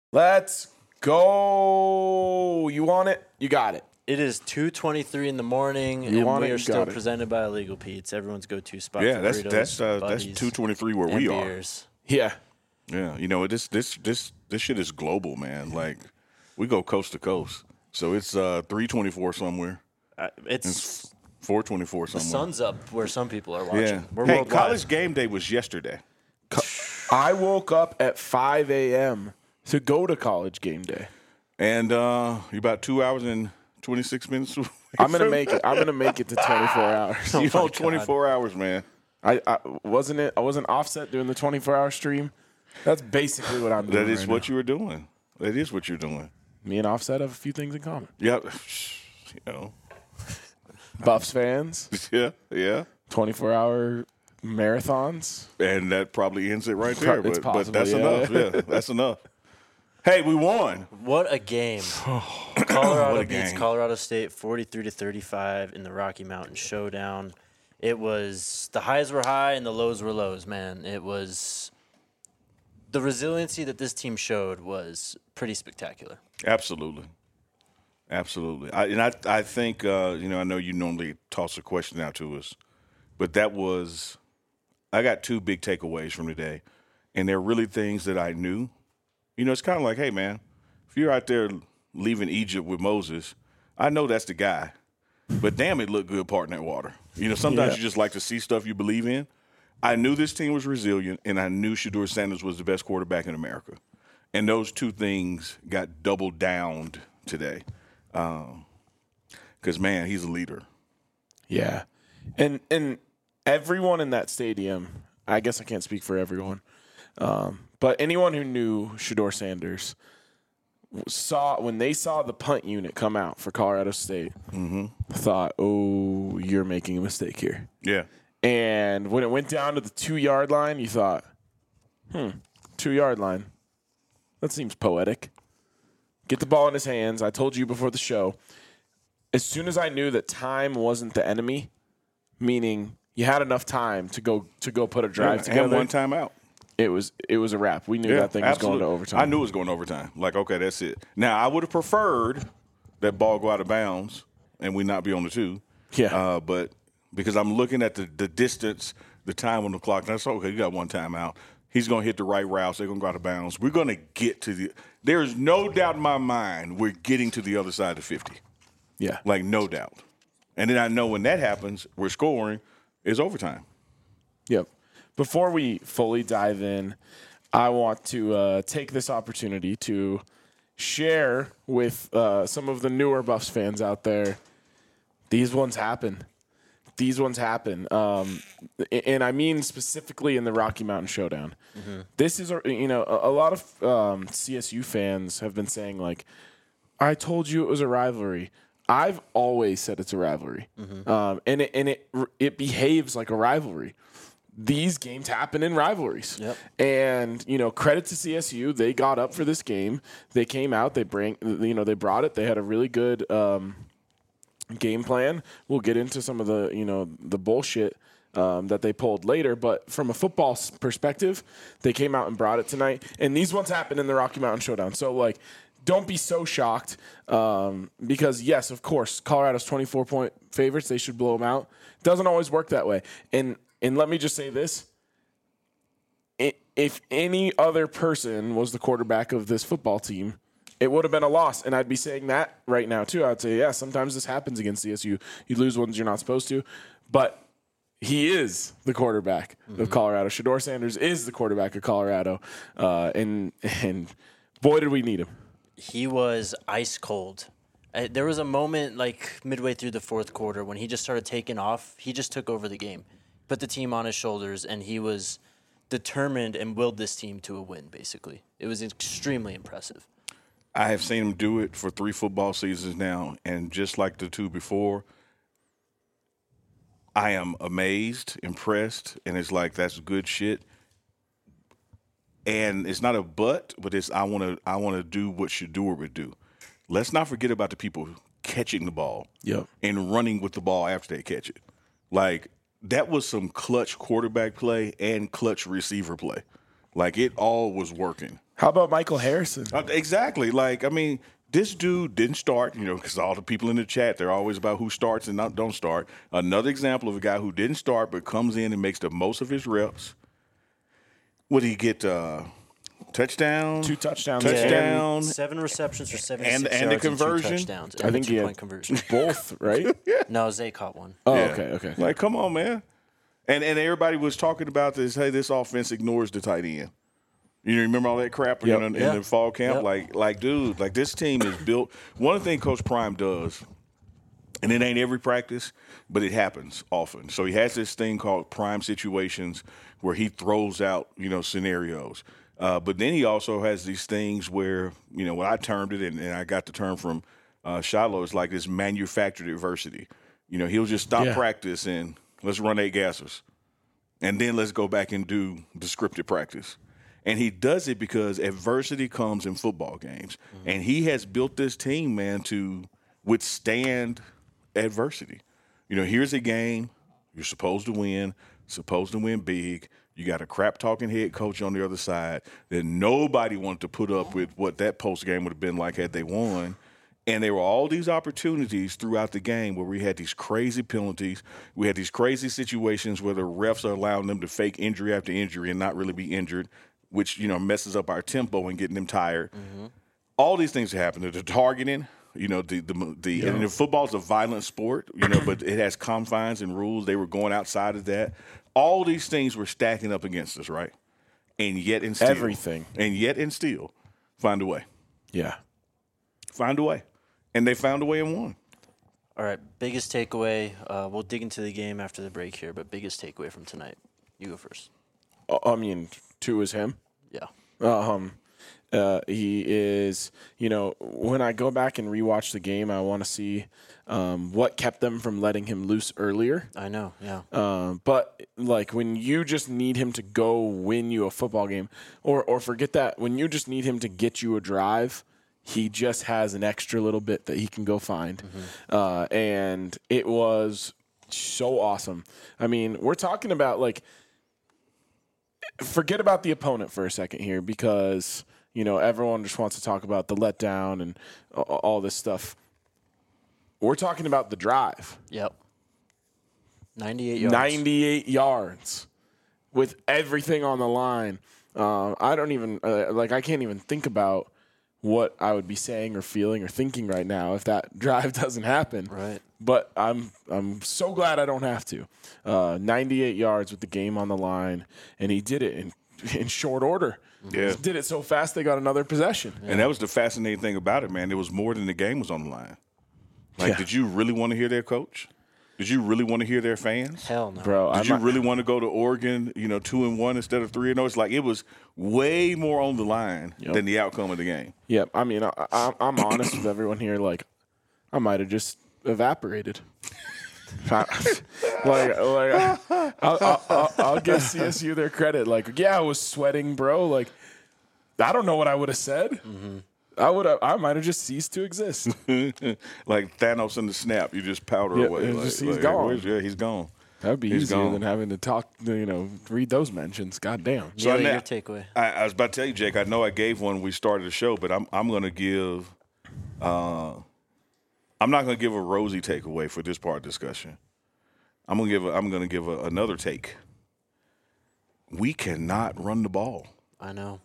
Let's go. You want it? You got it. It is 2:23 in the morning, and we are still presented by Illegal Pete's, everyone's go-to spot for burritos, that's 2:23 where we beers. are. Yeah. You know, this shit is global, man. Like, we go coast to coast. So it's 3:24 somewhere. It's 4:24 somewhere. The sun's up where some people are watching. Yeah. We're hey, worldwide. College game day was yesterday. I woke up at 5 a.m. to go to college game day. And you're about 2 hours and 26 minutes away. I'm gonna make it. I'm gonna make it to 24 hours. You know, 24 hours, man. I wasn't offset doing the 24-hour stream. That's basically what I'm doing. That is what you were doing. That is what you're doing. Me and Offset have a few things in common. Yep. You know. Buffs fans. Yeah. 24-hour marathons. And that probably ends it right there. It's possible, but that's enough. Yeah, that's enough. Hey, we won. What a game. Colorado What a beats game. Colorado State 43-35 in the Rocky Mountain Showdown. It was – the highs were high and the lows were lows, man. It was – the resiliency that this team showed was pretty spectacular. Absolutely. I think, I know you normally toss a question out to us, but that was – I got two big takeaways from today, and they're really things that I knew. You know, it's kind of like, hey, man, if you're out there leaving Egypt with Moses, I know that's the guy. But damn, it looked good parting that water. You know, sometimes you just like to see stuff you believe in. I knew this team was resilient, and I knew Shedeur Sanders was the best quarterback in America. And those two things got doubled down today. Because, man, he's a leader. Yeah. And everyone in that stadium, I guess I can't speak for everyone, but anyone who knew Shedeur Sanders saw when they saw the punt unit come out for Colorado State, thought, oh, you're making a mistake here. Yeah. And when it went down to the 2-yard line, you thought, 2-yard line. That seems poetic. Get the ball in his hands. I told you before the show, as soon as I knew that time wasn't the enemy, meaning you had enough time to go put a drive together. And one timeout. It was a wrap. We knew that thing was going to overtime. I knew it was going to overtime. Like, okay, that's it. Now, I would have preferred that ball go out of bounds and we not be on the 2. Yeah. But because I'm looking at the distance, the time on the clock, and I said, okay, you got one timeout. He's going to hit the right routes. They're going to go out of bounds. We're going to get to the – there's no doubt in my mind we're getting to the other side of 50. Yeah. Like, no doubt. And then I know when that happens, we're scoring, it's overtime. Yep. Before we fully dive in, I want to take this opportunity to share with some of the newer Buffs fans out there, these ones happen. And I mean specifically in the Rocky Mountain Showdown. Mm-hmm. This is, a lot of CSU fans have been saying, like, I told you it was a rivalry. I've always said it's a rivalry. Mm-hmm. And it behaves like a rivalry. These games happen in rivalries. Yep. And, credit to CSU. They got up for this game. They came out. They brought it. They had a really good game plan. We'll get into some of the bullshit that they pulled later. But from a football perspective, they came out and brought it tonight. And these ones happened in the Rocky Mountain Showdown. So, don't be so shocked because, yes, of course, Colorado's 24-point favorites. They should blow them out. Doesn't always work that way. And let me just say this. If any other person was the quarterback of this football team, it would have been a loss. And I'd be saying that right now, too. I'd say, yeah, sometimes this happens against CSU. You lose ones you're not supposed to. But he is the quarterback of Colorado. Shedeur Sanders is the quarterback of Colorado. And boy, did we need him. He was ice cold. There was a moment midway through the fourth quarter when he just started taking off. He just took over the game, put the team on his shoulders, and he was determined and willed this team to a win, basically. It was extremely impressive. I have seen him do it for 3 football seasons now, and just like the 2 before, I am amazed, impressed, and it's like that's good shit. And it's not a but it's I want to do what Shedeur would do. Let's not forget about the people catching the ball and running with the ball after they catch it. That was some clutch quarterback play and clutch receiver play. It all was working. How about Michael Harrison? Exactly. Like, I mean, this dude didn't start, because all the people in the chat, they're always about who starts and don't start. Another example of a guy who didn't start but comes in and makes the most of his reps. What did he get? Touchdown? 2 touchdowns. Touchdown. 7 receptions for 76 And the yards and 2 conversion? touchdowns. I And think the he had 2-point conversion. both, right? No, Zay caught one. Oh, Yeah. okay. Like, come on, man. And everybody was talking about this. Hey, this offense ignores the tight end. You remember all that crap Yep. in the fall camp? Yep. Like, dude, like this team is built. One thing Coach Prime does, and it ain't every practice, but it happens often. So he has this thing called prime situations where he throws out, scenarios. But then he also has these things where, what I termed it, and I got the term from Shiloh, is like this manufactured adversity. He'll just stop practice and let's run 8 gassers. And then let's go back and do the scripted practice. And he does it because adversity comes in football games. Mm-hmm. And he has built this team, man, to withstand adversity. Here's a game you're supposed to win big. You got a crap-talking head coach on the other side that nobody wanted to put up with what that post game would have been like had they won. And there were all these opportunities throughout the game where we had these crazy penalties. We had these crazy situations where the refs are allowing them to fake injury after injury and not really be injured, which, messes up our tempo and getting them tired. Mm-hmm. All these things happen. The targeting, and football's a violent sport, but it has confines and rules. They were going outside of that. All these things were stacking up against us, right? And yet and still. Everything. And yet and still find a way. Yeah. Find a way. And they found a way and won. All right, biggest takeaway. We'll dig into the game after the break here, but biggest takeaway from tonight. You go first. I mean, 2 is him. Yeah. He is, when I go back and rewatch the game, I want to see what kept them from letting him loose earlier. I know, yeah. But like when you just need him to go win you a football game, or forget that, when you just need him to get you a drive, he just has an extra little bit that he can go find. Mm-hmm. And it was so awesome. I mean, we're talking about forget about the opponent for a second here because, everyone just wants to talk about the letdown and all this stuff. We're talking about the drive. Yep. 98 yards. 98 yards with everything on the line. I don't even, I can't even think about what I would be saying or feeling or thinking right now if that drive doesn't happen. Right. But I'm so glad I don't have to. 98 yards with the game on the line, and he did it in short order. Yeah. He did it so fast they got another possession. Yeah. And that was the fascinating thing about it, man. It was more than the game was on the line. Did you really want to hear their coach? Did you really want to hear their fans? Hell no. Bro, Did you really want to go to Oregon, 2-1 instead of 3-0? It's like it was way more on the line than the outcome of the game. Yep. I mean, I'm honest with everyone here. I might have just evaporated. I'll give CSU their credit. I was sweating, bro. I don't know what I would have said. Mm-hmm. I might have just ceased to exist. Like Thanos in the snap, you just powder away. He's gone. He's gone. That would be easier than having to talk, read those mentions. God damn. So your takeaway. I was about to tell you, Jake, I know I gave one when we started the show, but I'm going to give I'm not going to give a rosy takeaway for this part of the discussion. I'm going to give another take. We cannot run the ball. I know.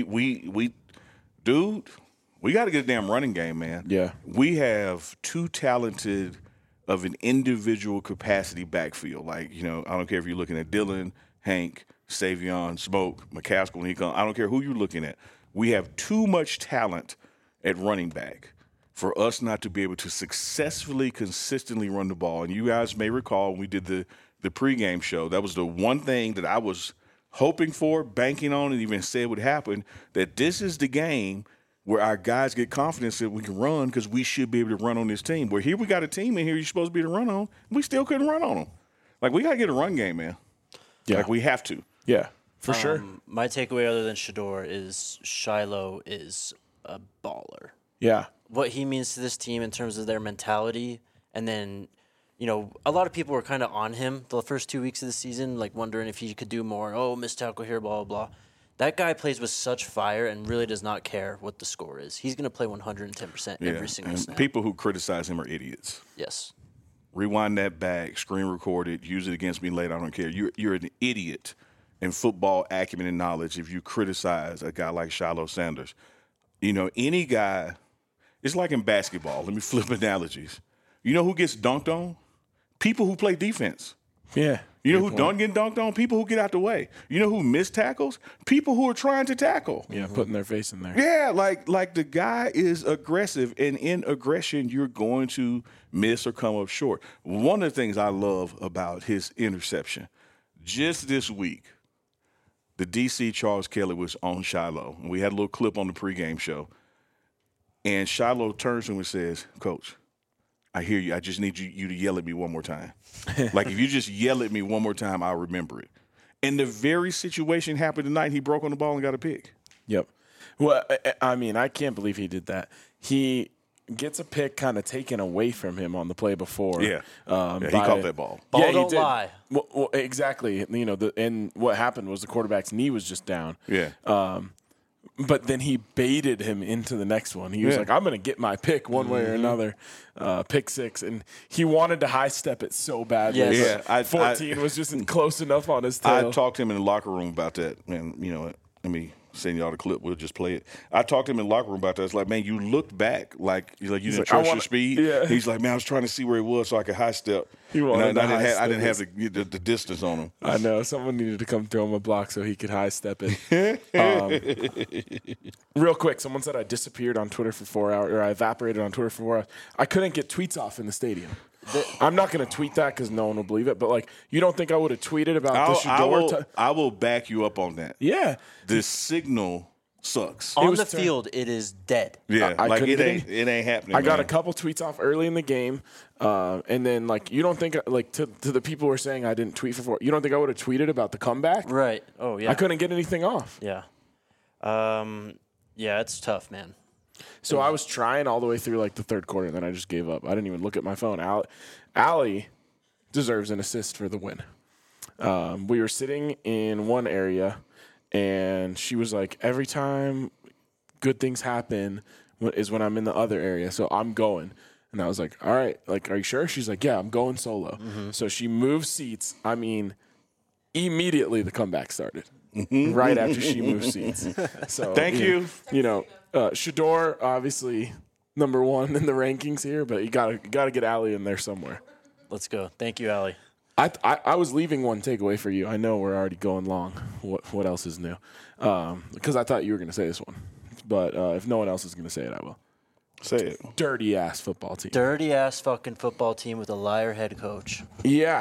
Dude, we got to get a damn running game, man. Yeah. We have too talented of an individual capacity backfield. I don't care if you're looking at Dylan, Hank, Savion, Smoke, McCaskill when he comes. I don't care who you're looking at. We have too much talent at running back for us not to be able to successfully, consistently run the ball. And you guys may recall when we did the pregame show, that was the one thing that I was hoping for, banking on, and even said would happen, that this is the game where our guys get confidence that we can run because we should be able to run on this team. Where here we got a team in here you're supposed to be able to run on. We still couldn't run on them. We got to get a run game, man. Yeah. We have to. Yeah, for sure. My takeaway other than Shedeur is Shiloh is a baller. Yeah. What he means to this team in terms of their mentality. And then, a lot of people were kind of on him the first 2 weeks of the season, wondering if he could do more. Oh, missed tackle here, blah, blah, blah. That guy plays with such fire and really does not care what the score is. He's going to play 110% every single snap. People who criticize him are idiots. Yes. Rewind that back, screen record it, use it against me later. I don't care. You're an idiot in football acumen and knowledge if you criticize a guy like Shiloh Sanders. You know, any guy, it's like in basketball. Let me flip analogies. You know who gets dunked on? People who play defense. Yeah. You know who don't get dunked on? People who get out the way. You know who miss tackles? People who are trying to tackle. Yeah, putting their face in there. Yeah, like the guy is aggressive, and in aggression, you're going to miss or come up short. One of the things I love about his interception, just this week, the DC Charles Kelly was on Shiloh. And we had a little clip on the pregame show. And Shiloh turns to him and says, Coach, I hear you. I just need you to yell at me one more time. Like, if you just yell at me one more time, I'll remember it. And the very situation happened tonight. He broke on the ball and got a pick. Yep. Well, I mean, I can't believe he did that. He gets a pick kind of taken away from him on the play before. Yeah, he caught that ball. Ball don't lie. Well, exactly. You know, and what happened was the quarterback's knee was just down. Yeah. But then he baited him into the next one. He was like, I'm going to get my pick one way or another. Pick six. And he wanted to high step it so badly. Yes. Yeah, 14 was just close enough on his tail. I talked to him in the locker room about that. And, you know, let me send y'all the clip. We'll just play it. I talked to him in the locker room about that. It's like, man, you looked back like you didn't trust your speed. Yeah. He's like, man, I was trying to see where he was so I could high step. He wanted to high I step didn't have the distance on him. I know. Someone needed to come throw him a block so he could high step it. Real quick, someone said I disappeared on Twitter for 4 hours, or I evaporated on Twitter for 4 hours. I couldn't get tweets off in the stadium. I'm not going to tweet that because no one will believe it. But, like, you don't think I would have tweeted about the Shedeur? I will back you up on that. Yeah. The signal sucks. On the field, it is dead. Yeah, I like couldn't it ain't happening. I got man. a couple tweets off early in the game, and then like you don't think like to the people who are saying I didn't tweet for you don't think I would have tweeted about the comeback? Right. Oh, yeah. I couldn't get anything off. Yeah. Yeah, it's tough, man. So I was trying all the way through like the third quarter, and then I just gave up. I didn't even look at my phone. Allie deserves an assist for the win. We were sitting in one area. And she was like, every time good things happen is when I'm in the other area. So I'm going. And I was like, all right, like, are you sure? She's like, yeah, I'm going solo. Mm-hmm. So she moved seats. I mean, immediately the comeback started. Right after she moved seats. So Thank you. You know, Shedeur, obviously number one in the rankings here, but you gotta get Allie in there somewhere. Let's go. Thank you, Allie. I was leaving one takeaway for you. I know we're already going long. What else is new? Because I thought you were going to say this one. But if no one else is going to say it, I will. Say it. Dirty-ass football team. Dirty-ass fucking football team with a liar head coach. Yeah.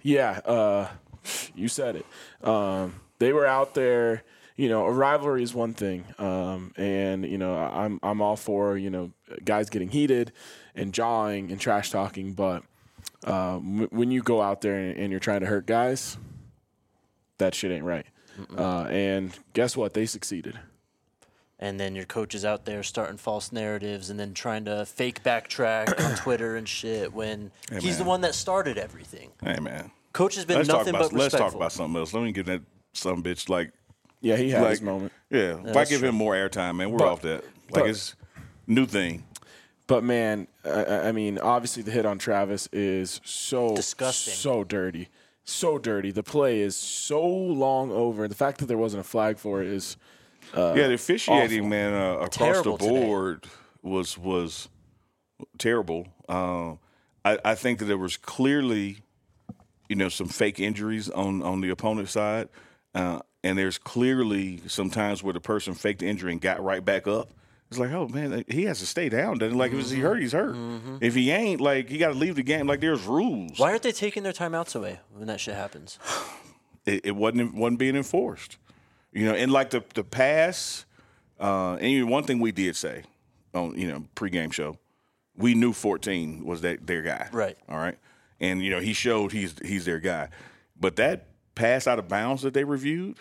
You said it. They were out there. You know, a rivalry is one thing. And, you know, I'm all for, you know, guys getting heated and jawing and trash talking, but when you go out there and you're trying to hurt guys, that shit ain't right. And guess what? They succeeded. And then your coach is out there starting false narratives and then trying to fake backtrack on Twitter and shit when he's the one that started everything. Hey, man. Coach has been nothing but respectful. Let's talk about something else. Let me get that some bitch like. Yeah, he had his moment. Yeah, if I give him more airtime, man, we're off that. Like, it's new thing. But, man, I mean, obviously the hit on Travis is so disgusting, so dirty. So dirty. The play is so long over. The fact that there wasn't a flag for it is the officiating, awful. man, across Terrible the board was terrible. I think that there was clearly, you know, some fake injuries on the opponent's side. And there's clearly some times where the person faked the injury and got right back up. It's like, oh, man, he has to stay down. Doesn't like if he hurt, he's hurt. Mm-hmm. If he ain't, like, he got to leave the game. Like, there's rules. Why aren't they taking their timeouts away when that shit happens? It wasn't being enforced. You know, and like the pass, and even one thing we did say on, you know, pregame show, we knew 14 was their guy. Right. All right. And, you know, he showed he's their guy. But that pass out of bounds that they reviewed,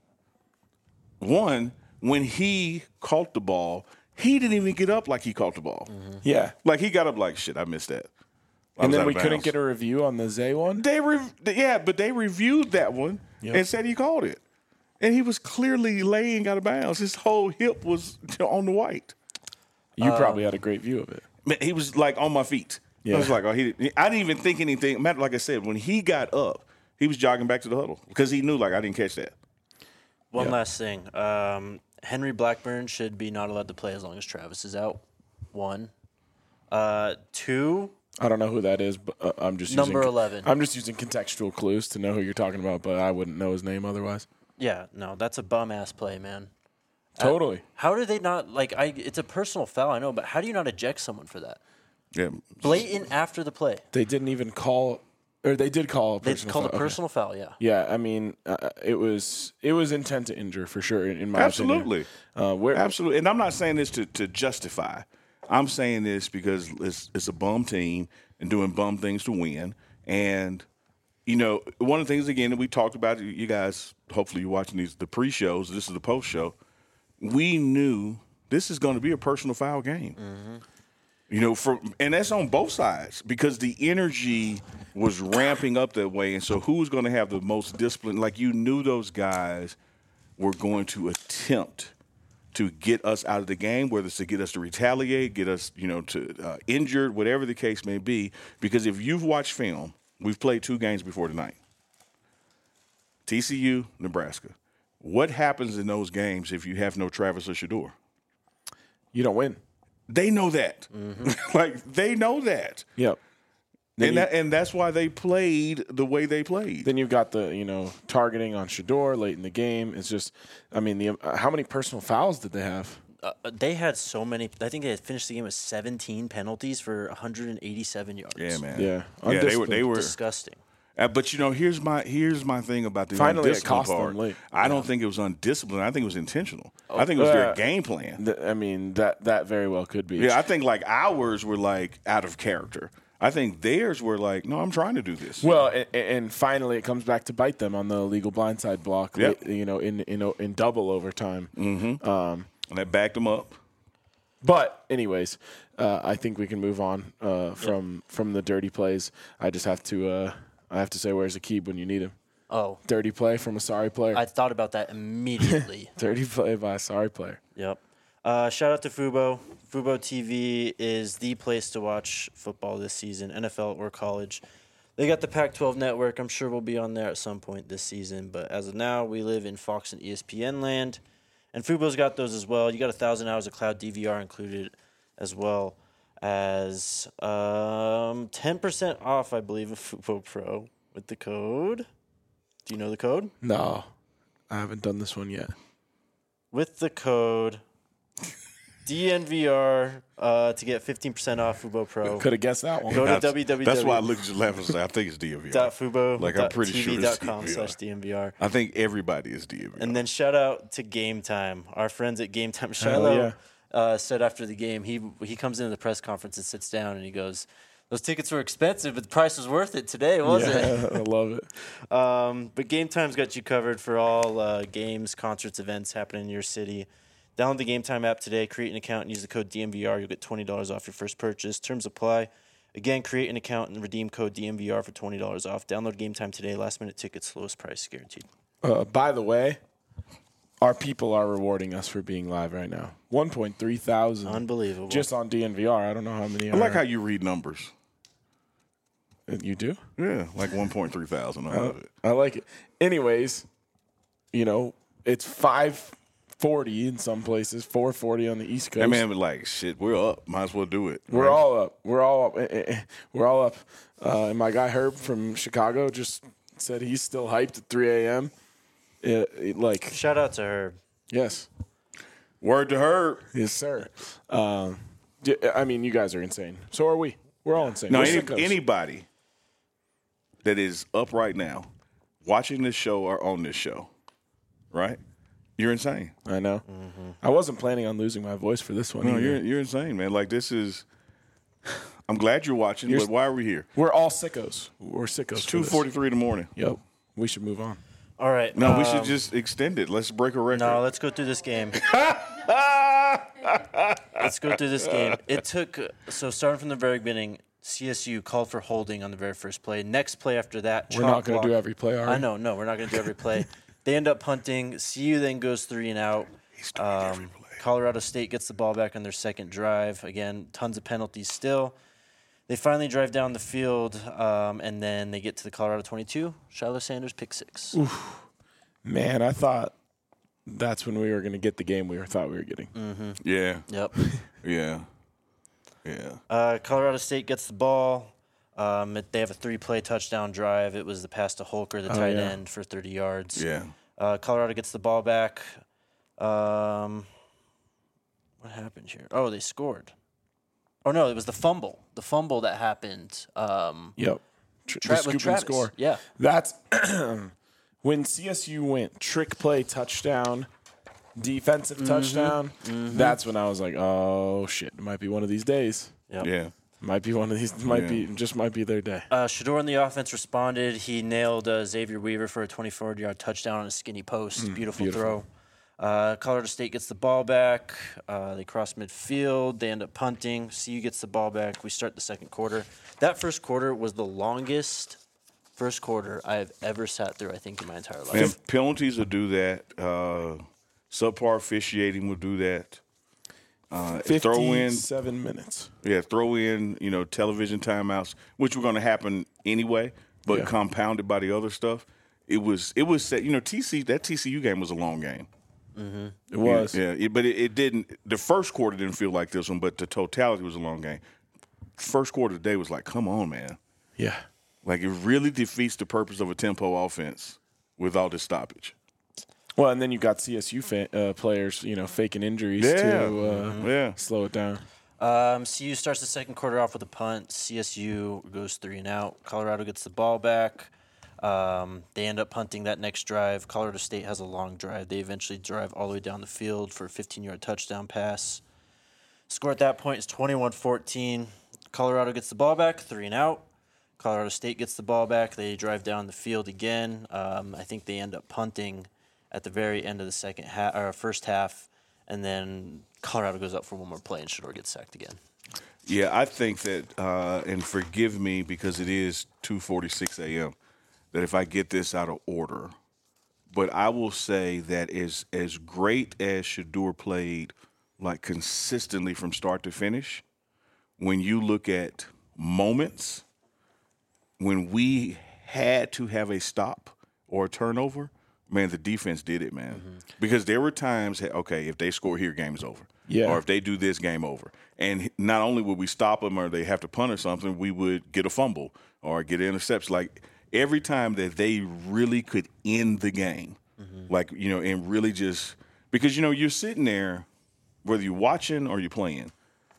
one, when he caught the ball, he didn't even get up like he caught the ball. Mm-hmm. Yeah. Like, he got up like, shit, I missed that. And then we couldn't get a review on the Zay one? But they reviewed that one and said he called it. and he was clearly laying out of bounds. His whole hip was on the white. You probably had a great view of it. Man, he was like on my feet. Yeah. I was like, I didn't even think anything. Matter, like I said, when he got up, he was jogging back to the huddle because he knew, like, I didn't catch that. One last thing. Henry Blackburn should be not allowed to play as long as Travis is out. 1. 2. I don't know who that is, but I'm just Number using, 11. I'm just using contextual clues to know who you're talking about, but I wouldn't know his name otherwise. Yeah, no, that's a bum-ass play, man. Totally. How do they not, it's a personal foul, I know, but how do you not eject someone for that? Yeah. Blatant after the play. They didn't even call, or they did call a They personal called foul. a personal foul, yeah. Okay. Yeah, I mean, it was intent to injure for sure, in my Absolutely. opinion. Absolutely. And I'm not saying this to justify. I'm saying this because it's a bum team and doing bum things to win. And, one of the things, again, that we talked about, you guys, hopefully you're watching the pre-shows, this is the post-show. We knew this is going to be a personal foul game. Mm-hmm. And that's on both sides because the energy was ramping up that way. And so who's going to have the most discipline? Like, you knew those guys were going to attempt to get us out of the game, whether it's to get us to retaliate, get us, to injured, whatever the case may be. Because if you've watched film, we've played 2 games before tonight. TCU, Nebraska. What happens in those games if you have no Travis or Shedeur? You don't win. They know that. Mm-hmm. They know that. Yep. And that's why they played the way they played. Then you've got the, targeting on Shedeur late in the game. It's just, I mean, how many personal fouls did they have? They had so many. I think they had finished the game with 17 penalties for 187 yards. Yeah, man. Yeah. Yeah, they were disgusting. But here's my thing about the Finally, it undisciplined cost them part. late. I don't think it was undisciplined. I think it was intentional. I think it was their game plan. I mean, that very well could be. Yeah, I think ours were out of character. I think theirs were no, I'm trying to do this. Well, and finally, it comes back to bite them on the illegal blindside block. Yep. In double overtime. Mm-hmm. And that backed them up. But anyways, I think we can move on from the dirty plays. I just have to say, where's Aqib when you need him? Oh, Dirty play from a sorry player. I thought about that immediately. Dirty play by a sorry player. Yep. Shout out to Fubo. Fubo TV is the place to watch football this season, NFL or college. They got the Pac-12 network. I'm sure we'll be on there at some point this season. But as of now, we live in Fox and ESPN land. And Fubo's got those as well. You got 1,000 hours of cloud DVR included as well as 10% off, I believe, of Fubo Pro with the code. Do you know the code? No, I haven't done this one yet. With the code DNVR to get 15% off Fubo Pro. Could have guessed that one. Go to www. That's why I looked at you laughing and said, I think it's DNVR. Fubo. I'm pretty sure it's TV.com/DNVR. I think everybody is DNVR. And then shout out to Game Time. Our friends at Game Time. Shiloh said after the game, he comes into the press conference and sits down and he goes, those tickets were expensive, but the price was worth it today, wasn't it? I love it. But Game Time's got you covered for all games, concerts, events happening in your city. Download the Game Time app today, create an account, and use the code DNVR. You'll get $20 off your first purchase. Terms apply. Again, create an account and redeem code DNVR for $20 off. Download Game Time today. Last-minute tickets, lowest price guaranteed. By the way, our people are rewarding us for being live right now. 1.3 thousand. Unbelievable. Just on DNVR. I don't know how many I like how you read numbers. You do? Yeah, 1.3 thousand. I love it. I like it. Anyways, it's 5:40 in some places, 4:40 on the East Coast. That man was shit, we're up. Might as well do it. We're all up. We're all up. And my guy Herb from Chicago just said he's still hyped at 3 a.m. Shout out to Herb. Yes. Word to Herb. Yes, sir. I mean, you guys are insane. So are we. We're all insane. No, We're sickos. anybody that is up right now, watching this show or on this show, right? You're insane. I know. Mm-hmm. I wasn't planning on losing my voice for this one. No, either. you're insane, man. This is. I'm glad you're watching, but why are we here? We're all sickos. We're sickos. It's 2:43 in the morning. Yep. We should move on. All right. No, we should just extend it. Let's break a record. No, let's go through this game. Let's go through this game. It took starting from the very beginning. CSU called for holding on the very first play. Next play after that, We're not going to do every play, are we? I know. No, we're not going to do every play. They end up punting. CU then goes 3 and out. Colorado State gets the ball back on their second drive. Again, tons of penalties still. They finally drive down the field, and then they get to the Colorado 22. Shiloh Sanders pick 6. Oof. Man, I thought that's when we were going to get the game thought we were getting. Mm-hmm. Yeah. Yep. Yeah. Colorado State gets the ball. They have a 3-play touchdown drive. It was the pass to Holker, the tight end, for 30 yards. Yeah. Colorado gets the ball back. What happened here? Oh, they scored. Oh, no, it was the fumble. The fumble that happened. Yep. The scoop and score. Yeah. That's when CSU went trick play touchdown, defensive touchdown. Mm-hmm. That's when I was like, oh, shit. It might be one of these days. Yep. Yeah. Might be one of these. Might be their day. Shedeur in the offense responded. He nailed Xavier Weaver for a 24-yard touchdown on a skinny post. Beautiful throw. Colorado State gets the ball back. They cross midfield. They end up punting. CU gets the ball back. We start the second quarter. That first quarter was the longest first quarter I have ever sat through, I think, in my entire life. Man, penalties will do that. Subpar officiating will do that. 57 minutes. Yeah, throw in, television timeouts, which were going to happen anyway, but compounded by the other stuff. It was set. That TCU game was a long game. Mm-hmm. It was. But it didn't. The first quarter didn't feel like this one, but the totality was a long game. First quarter today was like, come on, man. Yeah. Like, it really defeats the purpose of a tempo offense with all this stoppage. Well, and then you got CSU players, faking injuries to slow it down. CU starts the second quarter off with a punt. CSU goes 3 and out. Colorado gets the ball back. They end up punting that next drive. Colorado State has a long drive. They eventually drive all the way down the field for a 15-yard touchdown pass. Score at that point is 21-14. Colorado gets the ball back, 3 and out. Colorado State gets the ball back. They drive down the field again. I think they end up punting at the very end of the first half, and then Colorado goes up for one more play, and Shedeur gets sacked again. Yeah, I think that, and forgive me because it is 2:46 a.m., that if I get this out of order, but I will say that as great as Shedeur played, like, consistently from start to finish, when you look at moments when we had to have a stop or a turnover, man, the defense did it, man. Mm-hmm. Because there were times, okay, if they score here, game is over. Yeah. Or if they do this, game over. And not only would we stop them or they have to punt or something, we would get a fumble or get an interception. Like, every time that they really could end the game, and really just – because, you're sitting there, whether you're watching or you're playing,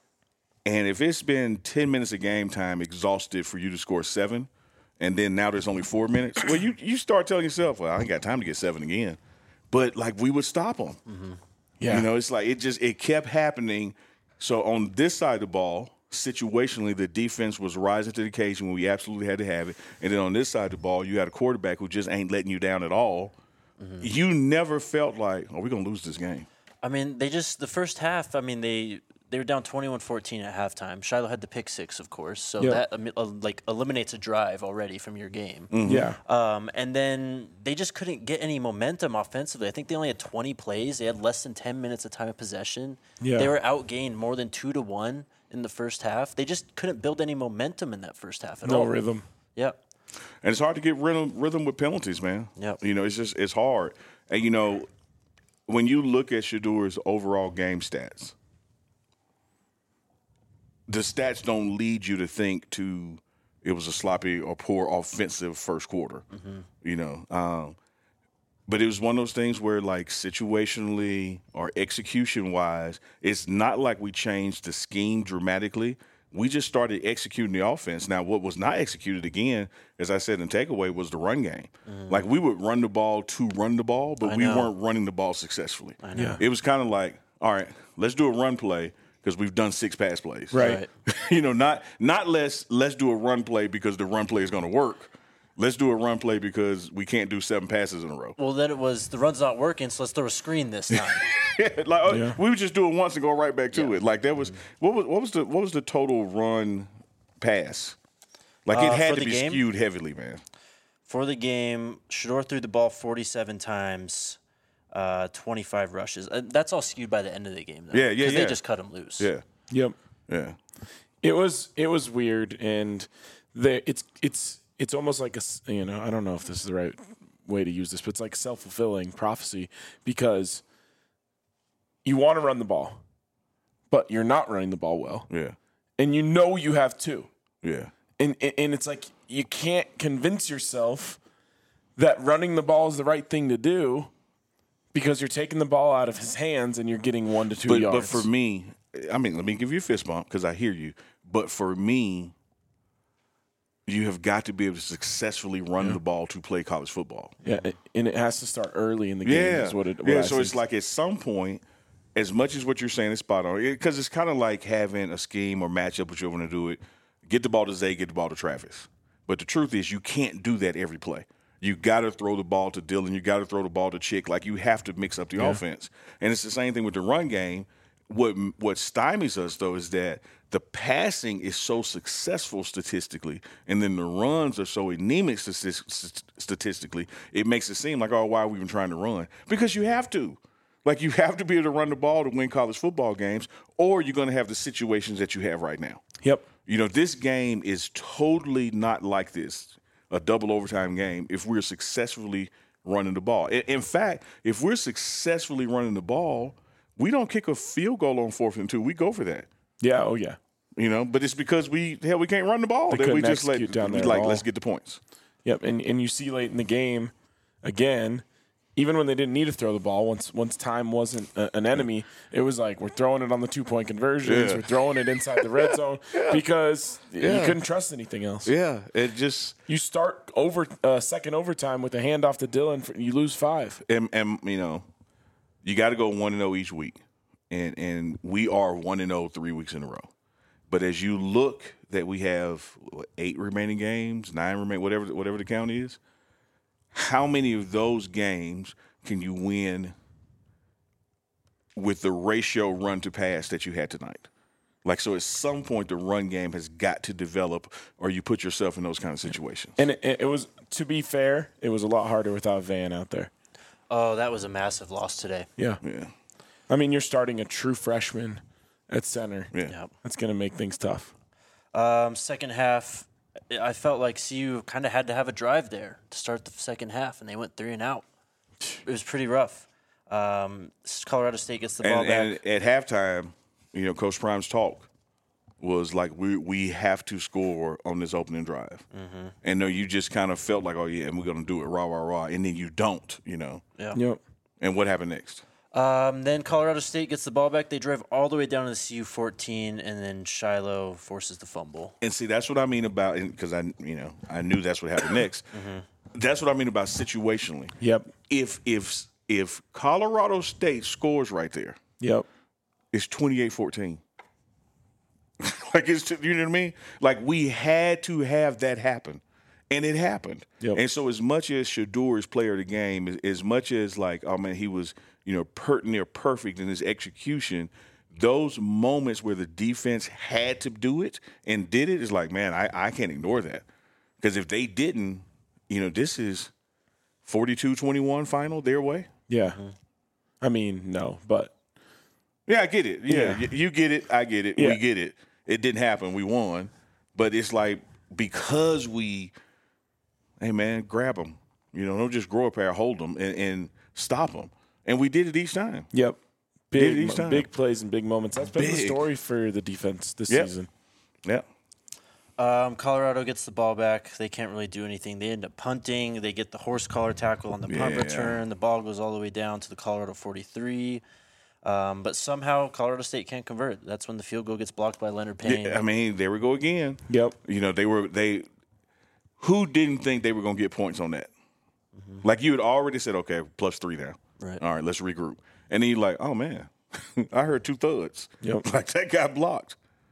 and if it's been 10 minutes of game time exhausted for you to score 7, and then now there's only 4 minutes, well, you start telling yourself, well, I ain't got time to get 7 again. But, like, we would stop them. Mm-hmm. Yeah. It's like it kept happening. So on this side of the ball, situationally, the defense was rising to the occasion when we absolutely had to have it. And then on this side of the ball, you had a quarterback who just ain't letting you down at all. Mm-hmm. You never felt like, we're going to lose this game. I mean, the first half, they were down 21-14 at halftime. Shiloh had the pick 6, of course, so that eliminates a drive already from your game. Mm-hmm. Yeah. And then they just couldn't get any momentum offensively. I think they only had 20 plays. They had less than 10 minutes of time of possession. Yeah. They were outgained more than 2-1 in the first half. They just couldn't build any momentum in that first half at all. No rhythm. Yep. And it's hard to get rhythm with penalties, man. Yep. It's hard. And, when you look at Shedeur's overall game stats, the stats don't lead you to think it was a sloppy or poor offensive first quarter, but it was one of those things where, like, situationally or execution-wise, it's not like we changed the scheme dramatically. We just started executing the offense. Now, what was not executed, again, as I said in takeaway, was the run game. Mm. Like, we would run the ball to run the ball, but we weren't running the ball successfully. I know. It was kind of like, all right, let's do a run play because we've done 6 pass plays. Right. Not let's do a run play because the run play is going to work. Let's do a run play because we can't do 7 passes in a row. Well, then it was the run's not working, so let's throw a screen this time. We would just do it once and go right back to it. Like, that was what was the total run pass? Like, it had to be skewed heavily, man. For the game, Shedeur threw the ball 47 times, 25 rushes. That's all skewed by the end of the game, though. Yeah. Because they just cut him loose. Yeah. Yep. Yeah. It was weird, and it's almost like I don't know if this is the right way to use this, but it's like self-fulfilling prophecy because you want to run the ball, but you're not running the ball well, Yeah. and you have to, Yeah. and it's like you can't convince yourself that running the ball is the right thing to do because you're taking the ball out of his hands and you're getting 1 to 2 yards. But for me, I mean, let me give you a fist bump because I hear you. But for me, you have got to be able to successfully run the ball to play college football. Yeah, and it has to start early in the game. Yeah. Is what So I it's think. like at some point, as much as what you're saying is spot on, because it's kind of like having a scheme or matchup, which you're going to do it. Get the ball to Zay, get the ball to Travis. But the truth is, you can't do that every play. You got to throw the ball to Dylan. You got to throw the ball to Chick. Like, you have to mix up the offense. And it's the same thing with the run game. What stymies us, though, is that the passing is so successful statistically, and then the runs are so anemic statistically, it makes it seem like, oh, why are we even trying to run? Because you have to. Like, you have to be able to run the ball to win college football games, or you're going to have the situations that you have right now. Yep. You know, this game is totally not like this, a double overtime game, if we're successfully running the ball. In fact, if we're successfully running the ball, we don't kick a field goal on 4th and 2. We go for that. Yeah. Oh, yeah. You know, but it's because we can't run the ball. They That we couldn't just execute down there at all. let's get the points. Yep. And you see late in the game, again, even when they didn't need to throw the ball, once time wasn't an enemy, it was like we're throwing it on the 2-point conversions, we're throwing it inside the red zone because you couldn't trust anything else. Yeah, it just You start second overtime with a handoff to Dylan, you lose 5. and you know, you got to go 1-0 each week, and we are 1-0 3 weeks in a row. But as you look that we have 8 remaining games, 9 remaining, whatever the count is. How many of those games can you win with the ratio run to pass that you had tonight? Like, so at some point, the run game has got to develop, or you put yourself in those kind of situations. And it was, to be fair, it was a lot harder without Van out there. Oh, that was a massive loss today. Yeah. I mean, you're starting a true freshman at center. Yeah. Yep. That's going to make things tough. Second half, I felt like CU kind of had to have a drive there to start the second half, and they went 3 and out. It was pretty rough. Colorado State gets the ball back. And at halftime, you know, Coach Prime's talk was like, we have to score on this opening drive. Mm-hmm. And no, you just kind of felt like, oh, yeah, and we're going to do it, rah, rah, rah. And then you don't, you know. Yeah. Yep. And what happened next? Then Colorado State gets the ball back. They drive all the way down to the CU 14, and then Shiloh forces the fumble. And see, that's what I mean about, because I knew that's what happened next. Mm-hmm. That's what I mean about situationally. Yep. If Colorado State scores right there, Yep. it's 28-14. Like, it's, you know what I mean? Like, we had to have that happen. And it happened. Yep. And so as much as Shedeur is player of the game, as much as like, oh, man, he was, you know, near perfect in his execution, those moments where the defense had to do it and did it is like, man, I can't ignore that. Because if they didn't, you know, this is 42-21 final their way. Yeah. I mean, no, but. Yeah, I get it. Yeah, you get it. I get it. Yeah. We get it. It didn't happen. We won. But it's like, because we – hey, man, grab them. You know, don't just grow a pair, hold them, and stop them. And we did it each time. Yep. Did it each time. Big plays and big moments. That's been the Big. story for the defense this season. Yeah. Colorado gets the ball back. They can't really do anything. They end up punting. They get the horse collar tackle on the punt Yeah. return. The ball goes all the way down to the Colorado 43. But somehow Colorado State can't convert. That's when the field goal gets blocked by Leonard Payne. I mean, there we go again. Yep. You know, who didn't think they were going to get points on that? Mm-hmm. Like, you had already said, okay, +3 now. Right. All right, let's regroup. And then you're like, oh, man, I heard 2 thuds. Yep. Like, that got blocked.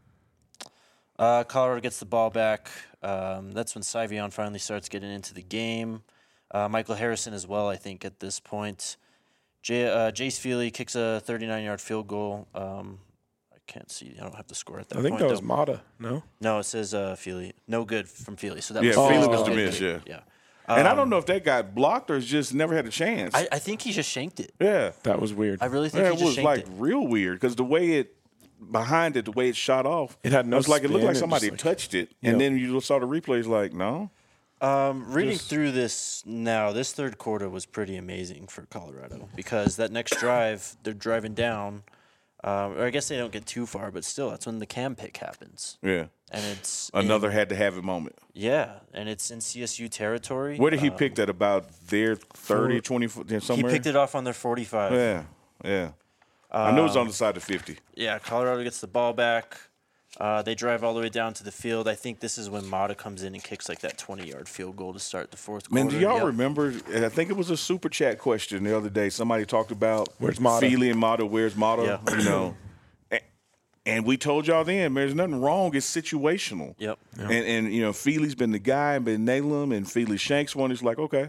Colorado gets the ball back. That's when Syvion finally starts getting into the game. Michael Harrison as well, I think, at this point. Jace Feely kicks a 39-yard field goal. I can't see. I don't have the score at that point. I think that was Mata, no? No, it says Feely. No good from Feely. So that Yeah, was Feely was dismissed, yeah. And I don't know if that got blocked or just never had a chance. I think he just shanked it. Yeah. That was weird. I really think Yeah, he it just was shanked like it. real weird because the way it behind it, the way it shot off, It had no it was like it looked spin, like it somebody just, like- touched it, Yep. and then you saw the replays. Like, no, Reading through this now, this third quarter was pretty amazing for Colorado because that next drive, they're driving down. Or I guess they don't get too far, but still, that's when the cam pick happens. yeah, And it's another had to have it moment. Yeah, and it's in CSU territory. Where did he pick that? About their 30, 20 He somewhere. picked it off on their 45. Yeah. I knew it was on the side of 50. Yeah, Colorado gets the ball back. They drive all the way down to the field. I think this is when Mata comes in and kicks like that 20-yard field goal to start the fourth quarter. Man, do y'all Yep. remember? I think it was a super chat question the other day. Somebody talked about Where's Mata? Feely and Mata. Where's Mata? Yeah. You know, and we told y'all then, man, there's nothing wrong. It's situational. Yep. And you know, Feely's been the guy and been nailing him, and Feely Shanks one is like, okay,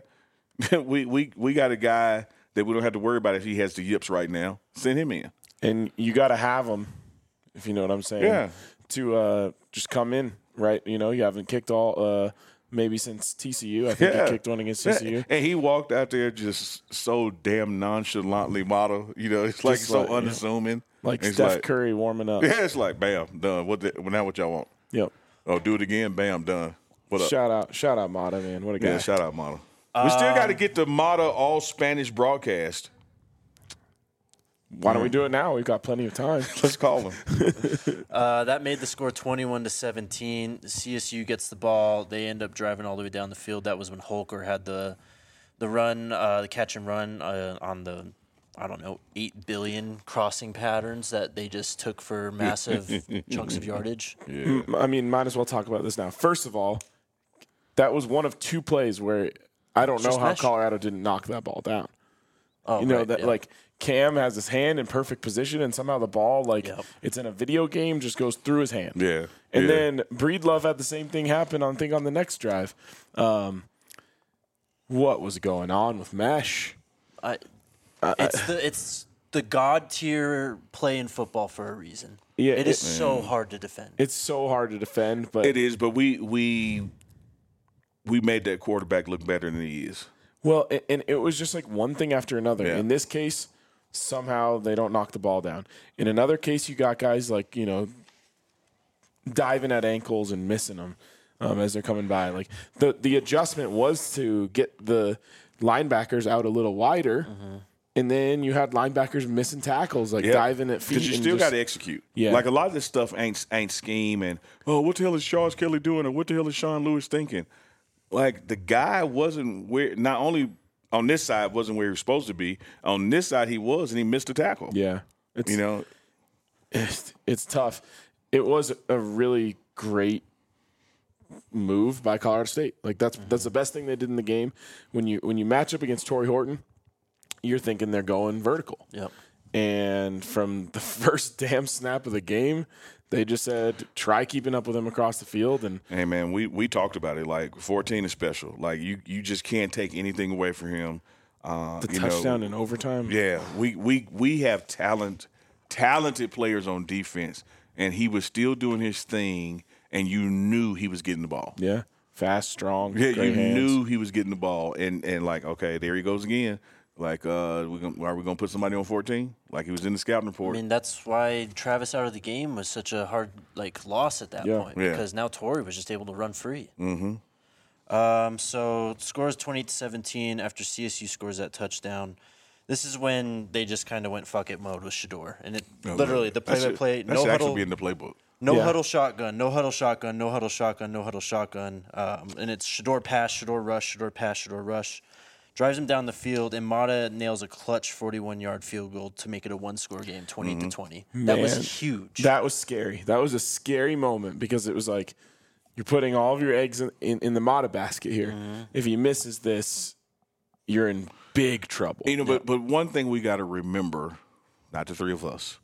we got a guy that we don't have to worry about if he has the yips right now. Send him in. And you got to have them, if you know what I'm saying. Yeah. To just come in, right? You know, you haven't kicked all maybe since TCU. I think Yeah. you kicked one against TCU. And he walked out there just so damn nonchalantly, Mata. You know, it's like Just so like, yeah. unassuming. Like It's Steph like- Curry warming up. Yeah, it's like bam, done. Now what y'all want? Yep. Oh, do it again, bam, done. What up? Shout out Mata, man. What a guy. Yeah, shout out Mata. We still got to get the Mata all Spanish broadcast. Why don't we do it now? We've got plenty of time. Let's call him. That made the score 21-17. CSU gets the ball. They end up driving all the way down the field. That was when Holker had the run, the catch and run on the, I don't know, 8 billion crossing patterns that they just took for massive chunks of yardage. I mean, might as well talk about this now. First of all, that was one of two plays where I don't know Just how mesh. Colorado didn't knock that ball down. Oh, You know right, that yeah. like Cam has his hand in perfect position, and somehow the ball, like Yep. it's in a video game, just goes through his hand. Yeah. And yeah. then Breedlove had the same thing happen on the next drive. What was going on with Mesh? It's the god tier play in football for a reason. Yeah, it is so hard to defend. It's so hard to defend, but It is, but we made that quarterback look better than he is. well, and it was just like one thing after another. Yeah. In this case, somehow they don't knock the ball down. In another case, you got guys like, you know, diving at ankles and missing them as they're coming by. Like the adjustment was to get the linebackers out a little wider, and then you had linebackers missing tackles, like Yeah. diving at feet. Because you and still just- got to execute. Yeah. Like a lot of this stuff ain't scheme and what the hell is Charles Kelly doing or what the hell is Sean Lewis thinking? Like the guy wasn't where. Not only on this side wasn't where he was supposed to be. On this side he was, and he missed a tackle. Yeah, it's You know. it's tough. It was a really great move by Colorado State. Like that's the best thing they did in the game. When you match up against Torrey Horton, you're thinking they're going vertical. Yep. And from the first damn snap of the game, they just said try keeping up with him across the field. And Hey man, we talked about it. Like 14 is special. Like you just can't take anything away from him. the you know, touchdown in overtime. Yeah, we have talented players on defense, and he was still doing his thing, and you knew he was getting the ball. Yeah. Fast, strong. Yeah, great you hands. knew he was getting the ball, and like, okay, there he goes again. Like, are we gonna put somebody on 14? Like he was in the scouting I report. mean, that's why Travis out of the game was such a hard loss at that Yeah. point Yeah. because now Torrey was just able to run free. Mm-hmm. So scores 28-17 after CSU scores that touchdown. This is when they just kind of went fuck it mode with Shador, and it literally the play-by-play, That no should actually huddle, be in the playbook. no Yeah. huddle shotgun, no huddle shotgun, no huddle shotgun, no huddle shotgun, and it's Shador pass, Shador rush, Shador pass, Shador rush. Drives him down the field, and Mata nails a clutch 41-yard field goal to make it a one-score game, 28-20. That Man, was huge. That was scary. That was a scary moment because it was like you're putting all of your eggs in the Mata basket here. If he misses this, you're in big trouble. You know, but one thing we got to remember, not the three of us,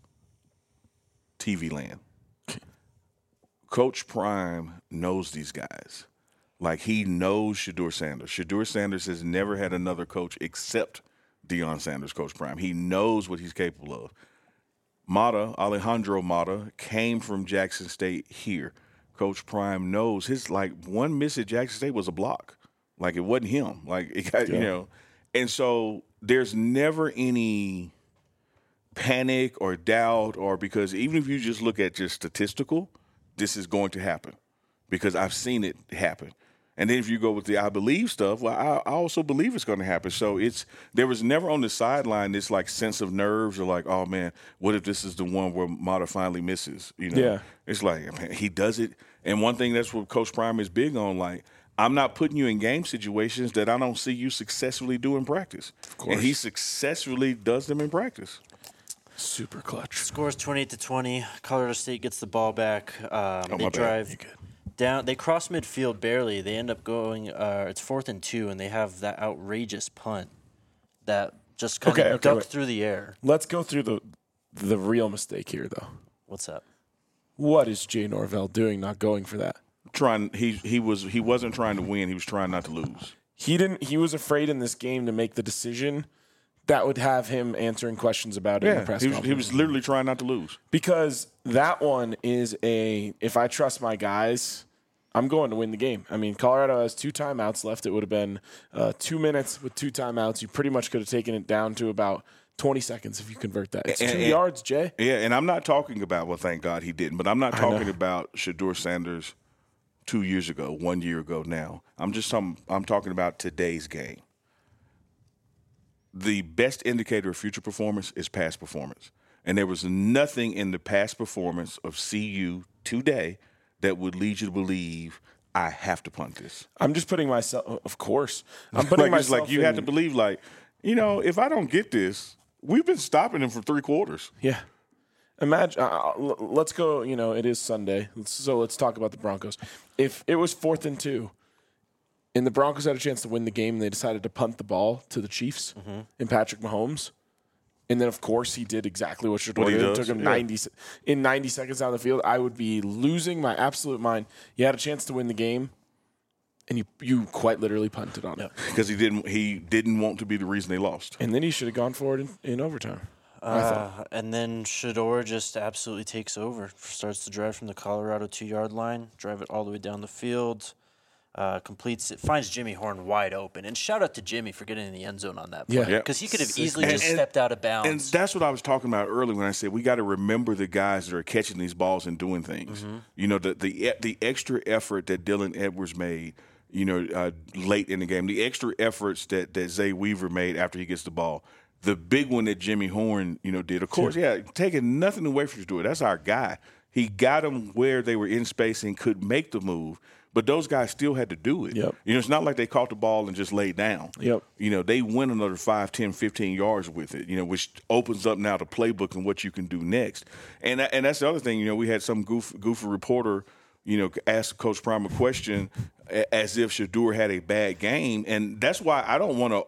TV land. Coach Prime knows these guys. Like he knows Shador Sanders. Shador Sanders has never had another coach except Deion Sanders, Coach Prime. He knows what he's capable of. Alejandro Mata, came from Jackson State here. Coach Prime knows his one miss at Jackson State was a block. Like it wasn't him. Like it got, and so there's never any panic or doubt, or because even if you just look at just statistical, this is going to happen because I've seen it happen. And then if you go with the I believe stuff, well, I also believe it's going to happen. So there was never on the sideline this like sense of nerves or like, oh man, what if this is the one where Mata finally misses? Yeah. It's like, man, he does it. And one thing that's what Coach Prime is big on, like, I'm not putting you in game situations that I don't see you successfully do in practice. Of course. And he successfully does them in practice. Super clutch. Scores 28-20. Colorado State gets the ball back. They my drive down. They cross midfield barely. They end up going. It's 4th and 2, and they have that outrageous punt that just kind of ducked through the air. Let's go through the real mistake here, though. What's up? What is Jay Norvell doing? Not going for that. He wasn't trying to win. He was trying not to lose. He was afraid in this game to make the decision that would have him answering questions about it in the press conference. He was literally trying not to lose. Because that one is if I trust my guys, I'm going to win the game. I mean, Colorado has 2 timeouts left. It would have been 2 minutes with 2 timeouts. You pretty much could have taken it down to about 20 seconds if you convert that. It's 2 yards, Jay. Yeah, and I'm not talking about, well, thank God he didn't, but I'm not talking about Shedeur Sanders 2 years ago, 1 year ago now. I'm talking about today's game. The best indicator of future performance is past performance. And there was nothing in the past performance of CU today that would lead you to believe I have to punt this. I'm just putting myself, of course. I'm putting myself like you have to believe, like, if I don't get this, we've been stopping him for 3 quarters. Yeah. Imagine, let's go, it is Sunday, so let's talk about the Broncos. If it was 4th and 2, and the Broncos had a chance to win the game, and they decided to punt the ball to the Chiefs and Patrick Mahomes, and then, of course, he did exactly what Shedeur did. It took him 90 seconds down the field. I would be losing my absolute mind. You had a chance to win the game, and you quite literally punted on it. Because he didn't want to be the reason they lost. And then he should have gone for it in overtime. And then Shedeur just absolutely takes over. Starts to drive from the Colorado 2-yard line, drive it all the way down the field, completes it, finds Jimmy Horn wide open. And shout out to Jimmy for getting in the end zone on that play. Because he could have easily just stepped out of bounds. And that's what I was talking about earlier when I said we got to remember the guys that are catching these balls and doing things. The extra effort that Dylan Edwards made, late in the game, the extra efforts that Zay Weaver made after he gets the ball. The big one that Jimmy Horn, did, of course, taking nothing away from Shedeur. That's our guy. He got them where they were in space and could make the move, but those guys still had to do it. Yep. It's not like they caught the ball and just laid down. Yep. They went another 5, 10, 15 yards with it, which opens up now the playbook and what you can do next. And that's the other thing, we had some goofy reporter, ask Coach Prime a question as if Shedeur had a bad game, and that's why I don't want to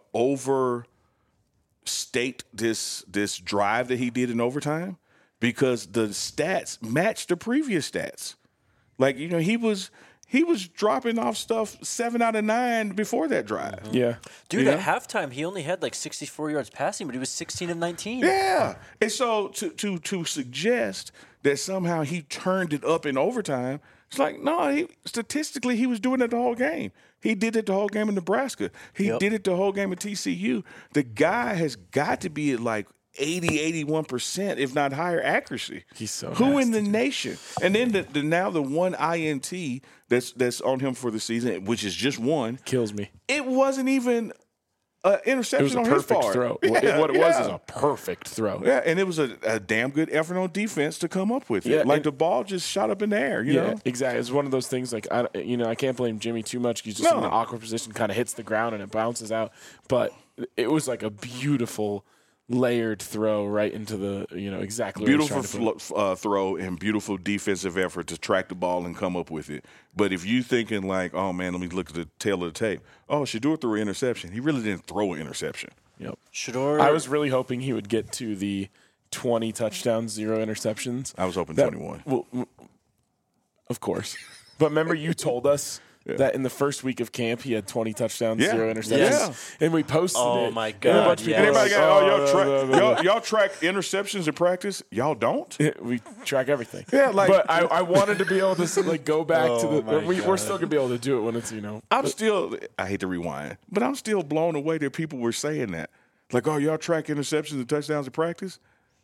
overstate this drive that he did in overtime, because the stats match the previous stats. Like, he was dropping off stuff 7 out of 9 before that drive. Yeah. Dude, at halftime, he only had like 64 yards passing, but he was 16 of 19. Yeah. And so to suggest that somehow he turned it up in overtime, it's like, no, statistically he was doing it the whole game. He did it the whole game in Nebraska. He did it the whole game at TCU. The guy has got to be at like 80, 81%, if not higher accuracy. He's so Who in nasty, the nation? And then the one INT that's on him for the season, which is just one. Kills me. It wasn't even an interception It was a on his perfect part. throw. Yeah, What it was is a perfect throw. Yeah, and it was a damn good effort on defense to come up with it. Yeah, Like and- the ball just shot up in the air, you know? Exactly. It's one of those things like, I can't blame Jimmy too much. He's just in an awkward position, kind of hits the ground and it bounces out. But it was like a beautiful layered throw right into the, exactly where he's trying to put it. Beautiful throw and beautiful defensive effort to track the ball and come up with it. But if you thinking like, oh, man, let me look at the tail of the tape. Oh, Shedeur threw an interception. He really didn't throw an interception. Yep. Shedeur, I was really hoping he would get to the 20 touchdowns, 0 interceptions. I was hoping 21. Well, of course. But remember, you told us that in the first week of camp he had 20 touchdowns, Yeah. 0 interceptions, Yes. and we posted it. Oh, my And a God, bunch of people yes. were Everybody like, got, y'all track interceptions in practice? Y'all don't? we track everything. Yeah, like- but I wanted to be able to like go back to Oh, my the. We're still gonna be able to do it when it's I'm still, I hate to rewind, but I'm still blown away that people were saying that. Like, oh, y'all track interceptions and touchdowns in practice?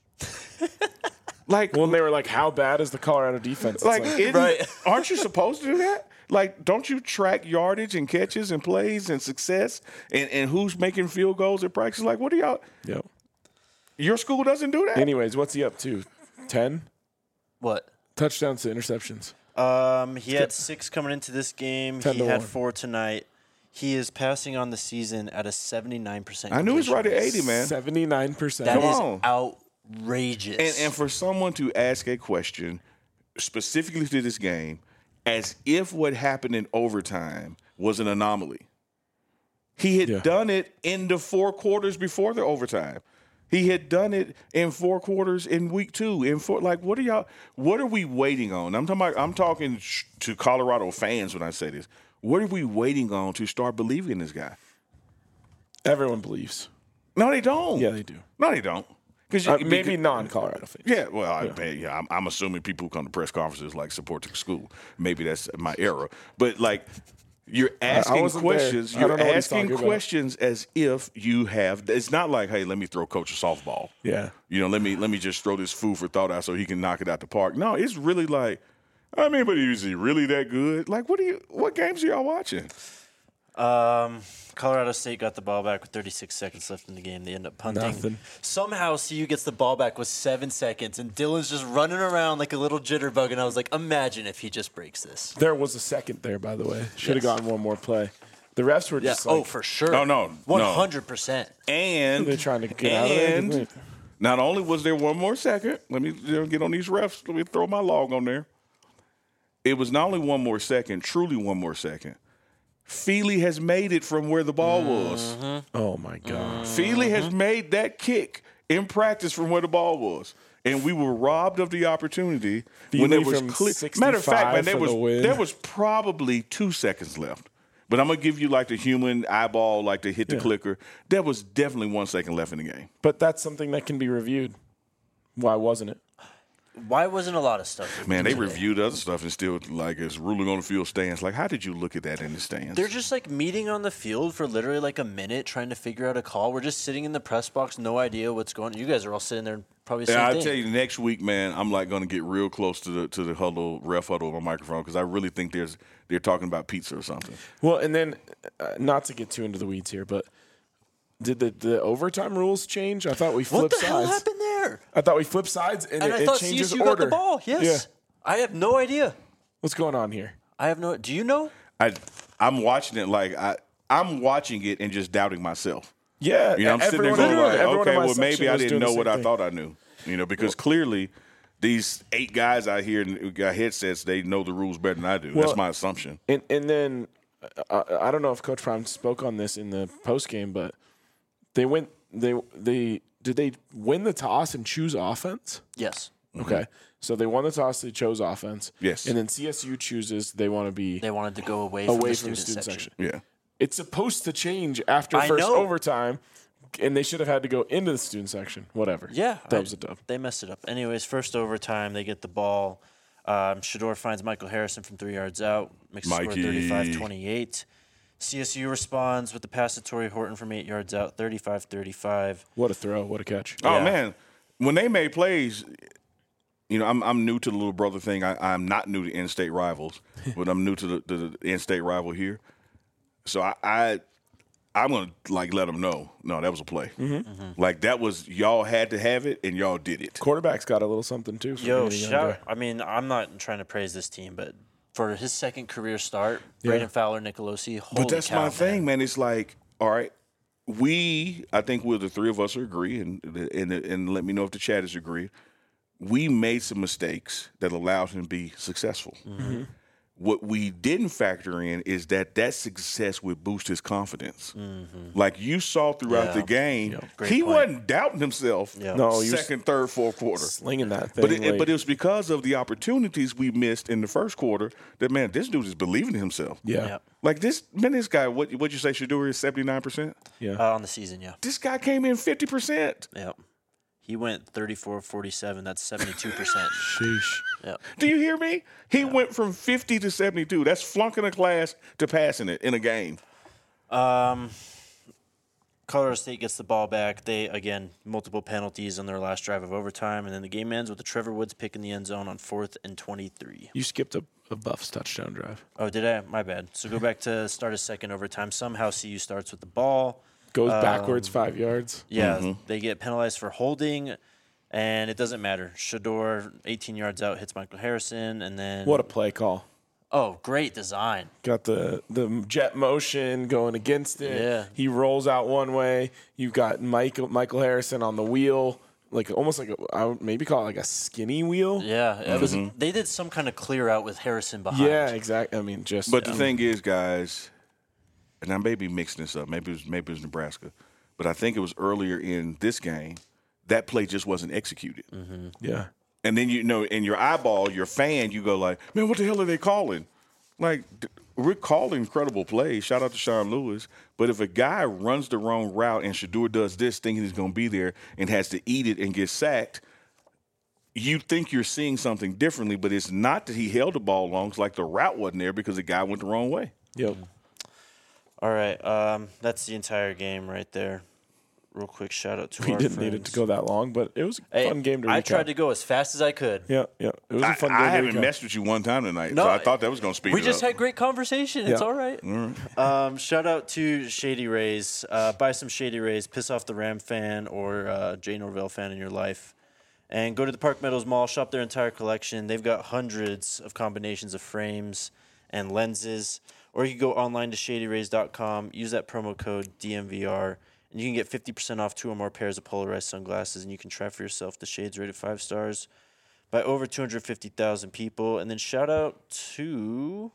Like, when they were like, how bad is the Colorado defense? It's like, Right. aren't you supposed to do that? Like, don't you track yardage and catches and plays and success and who's making field goals at practice? Like, what do y'all? Yep. Your school doesn't do that? Anyways, what's he up to? 10 What? touchdowns to interceptions. He had 6 coming into this game. 10 He to had 1. 4 tonight. He is passing on the season at a 79%. I knew he was right at 80, man. 79%. That Come is on. outrageous. And for someone to ask a question specifically to this game as if what happened in overtime was an anomaly. He had done it in the 4 quarters before the overtime. He had done it in 4 quarters in week 2. What are we waiting on? I'm talking to Colorado fans when I say this. What are we waiting on to start believing in this guy? Everyone believes. No, they don't. Yeah, they do. No, they don't. Maybe non-Colorado fans. Yeah, well, I'm assuming people who come to press conferences like support the school. Maybe that's my era. But like, you're asking wasn't questions. there. I don't You're know what he's asking talking about. questions as if you have. It's not like, hey, let me throw coach a softball. Yeah. Let me just throw this food for thought out so he can knock it out the park. No, it's really like, I mean, but is he really that good? Like, what games are y'all watching? Colorado State got the ball back with 36 seconds left in the game. They end up punting. Nothing. Somehow CU gets the ball back with 7 seconds, and Dylan's just running around like a little jitterbug. And I was like, imagine if he just breaks this. There was a second there, by the way. Should have Yes. gotten one more play. The refs were Yeah. just like, For sure. No. 100%. And they're trying to get out of there. And not only was there one more second, let me get on these refs. Let me throw my log on there. It was not only one more second, truly one more second. Feely has made it from where the ball was. Oh, my God. Feely has made that kick in practice from where the ball was. And we were robbed of the opportunity when Feely it was from clear. Matter of fact, man, 65 for the win. there was probably 2 seconds left. But I'm going to give you like the human eyeball, like to hit the clicker. There was definitely 1 second left in the game. But that's something that can be reviewed. Why wasn't it? Why wasn't a lot of stuff? Man, they today? reviewed other stuff and still like it's ruling on the field stands. Like, how did you look at that in the stands? They're just like meeting on the field for literally like a minute trying to figure out a call. We're just sitting in the press box, no idea what's going on. You guys are all sitting there probably the same I'll thing. tell you, next week, man, I'm like going to get real close to the huddle, ref huddle on my microphone because I really think they're talking about pizza or something. Well, and then, not to get too into the weeds here, but did the overtime rules change? I thought we flipped What the hell sides. happened there? I thought we flipped sides, and And I it thought changes CSU order. got the ball. Yes. Yeah. I have no idea. What's going on here? I have no. Do you know? I'm watching it like I'm watching it and just doubting myself. Yeah. I'm sitting there everyone- going like, everyone in okay, my well, maybe section I was didn't doing the know what same I thing. thought I knew. Because clearly these 8 guys out here who got headsets, they know the rules better than I do. Well, That's my assumption. And then I don't know if Coach Prime spoke on this in the post game, but they went. Did they win the toss and choose offense? Yes. Okay, so they won the toss. They chose offense. Yes. and then CSU chooses they want to be They wanted to go away from the student student section. Yeah. It's supposed to change after I first know. overtime, and they should have had to go into the student section. Whatever. Yeah. that was a dub. They messed it up. Anyways, first overtime, they get the ball. Shador finds Michael Harrison from 3 yards out. Makes the score Mikey. 35-28. CSU responds with the pass to Torrey Horton from 8 yards out, 35-35. What a throw! What a catch! Oh Yeah. man, when they made plays, I'm new to the little brother thing. I'm not new to in-state rivals, but I'm new to the in-state rival here. So I'm gonna like let them know. No, that was a play. Like that was y'all had to have it and y'all did it. Quarterback's got a little something too. For Yo, being a young guy. I mean, I'm not trying to praise this team, but for his second career start, Yeah. Braden Fowler, Nicolosi, holy But that's cow, my thing, man. man. It's like, all right, I think the 3 of us agree, and let me know if the chat is agree. We made some mistakes that allowed him to be successful. What we didn't factor in is that success would boost his confidence. Like you saw throughout the game, Great he point. wasn't doubting himself. Yeah. No, he was second, third, fourth quarter. slinging that thing. But it was because of the opportunities we missed in the first quarter that, man, this dude is believing in himself. yeah. Yeah. Like this guy, what'd you say Shedeur is 79%? Yeah. On the season, yeah. This guy came in 50%. Yep. He went 34-47. That's 72%. Sheesh. Yep. Do you hear me? He went from 50 to 72. That's flunking a class to passing it in a game. Colorado State gets the ball back. They, again, multiple penalties on their last drive of overtime. And then the game ends with the Trevor Woods pick in the end zone on 4th and 23. You skipped a Buffs touchdown drive. Oh, did I? My bad. So go back to start a second overtime. Somehow CU starts with the ball. Goes backwards 5 yards. Yeah, they get penalized for holding, and it doesn't matter. Shedeur, 18 yards out, hits Michael Harrison, and then What a play call. oh, great design. Got the jet motion going against it. Yeah. He rolls out one way. You've got Michael Harrison on the wheel, like almost like I would maybe call it like a skinny wheel. Yeah, it was. They did some kind of clear out with Harrison behind. Yeah, exactly. I mean, just But the thing is, guys, and I may be mixing this up. Maybe it was Nebraska, but I think it was earlier in this game that play just wasn't executed. yeah. And then in your eyeball, your fan, you go like, man, what the hell are they calling? Like we're calling incredible plays. Shout out to Sean Lewis. But if a guy runs the wrong route and Shedeur does this, thinking he's going to be there and has to eat it and get sacked, you think you're seeing something differently. But it's not that he held the ball long. It's like the route wasn't there because the guy went the wrong way. Yep. All right, that's the entire game right there. Real quick shout out to We our didn't friends. need it to go that long, but it was a fun game to recap. I tried to go as fast as I could. Yeah, yeah. It was a fun game I to haven't recap. messed with you one time tonight, No, so I thought that was going to speed We it just up. had great conversation. It's Yeah. all right. Shout out to Shady Rays. Buy some Shady Rays. Piss off the Ram fan or Jay Norvell fan in your life. And go to the Park Meadows Mall. Shop their entire collection. They've got hundreds of combinations of frames and lenses. Or you can go online to shadyrays.com. Use that promo code DMVR. And you can get 50% off 2 or more pairs of polarized sunglasses. And you can try for yourself the shades rated 5 stars by over 250,000 people. And then shout out to,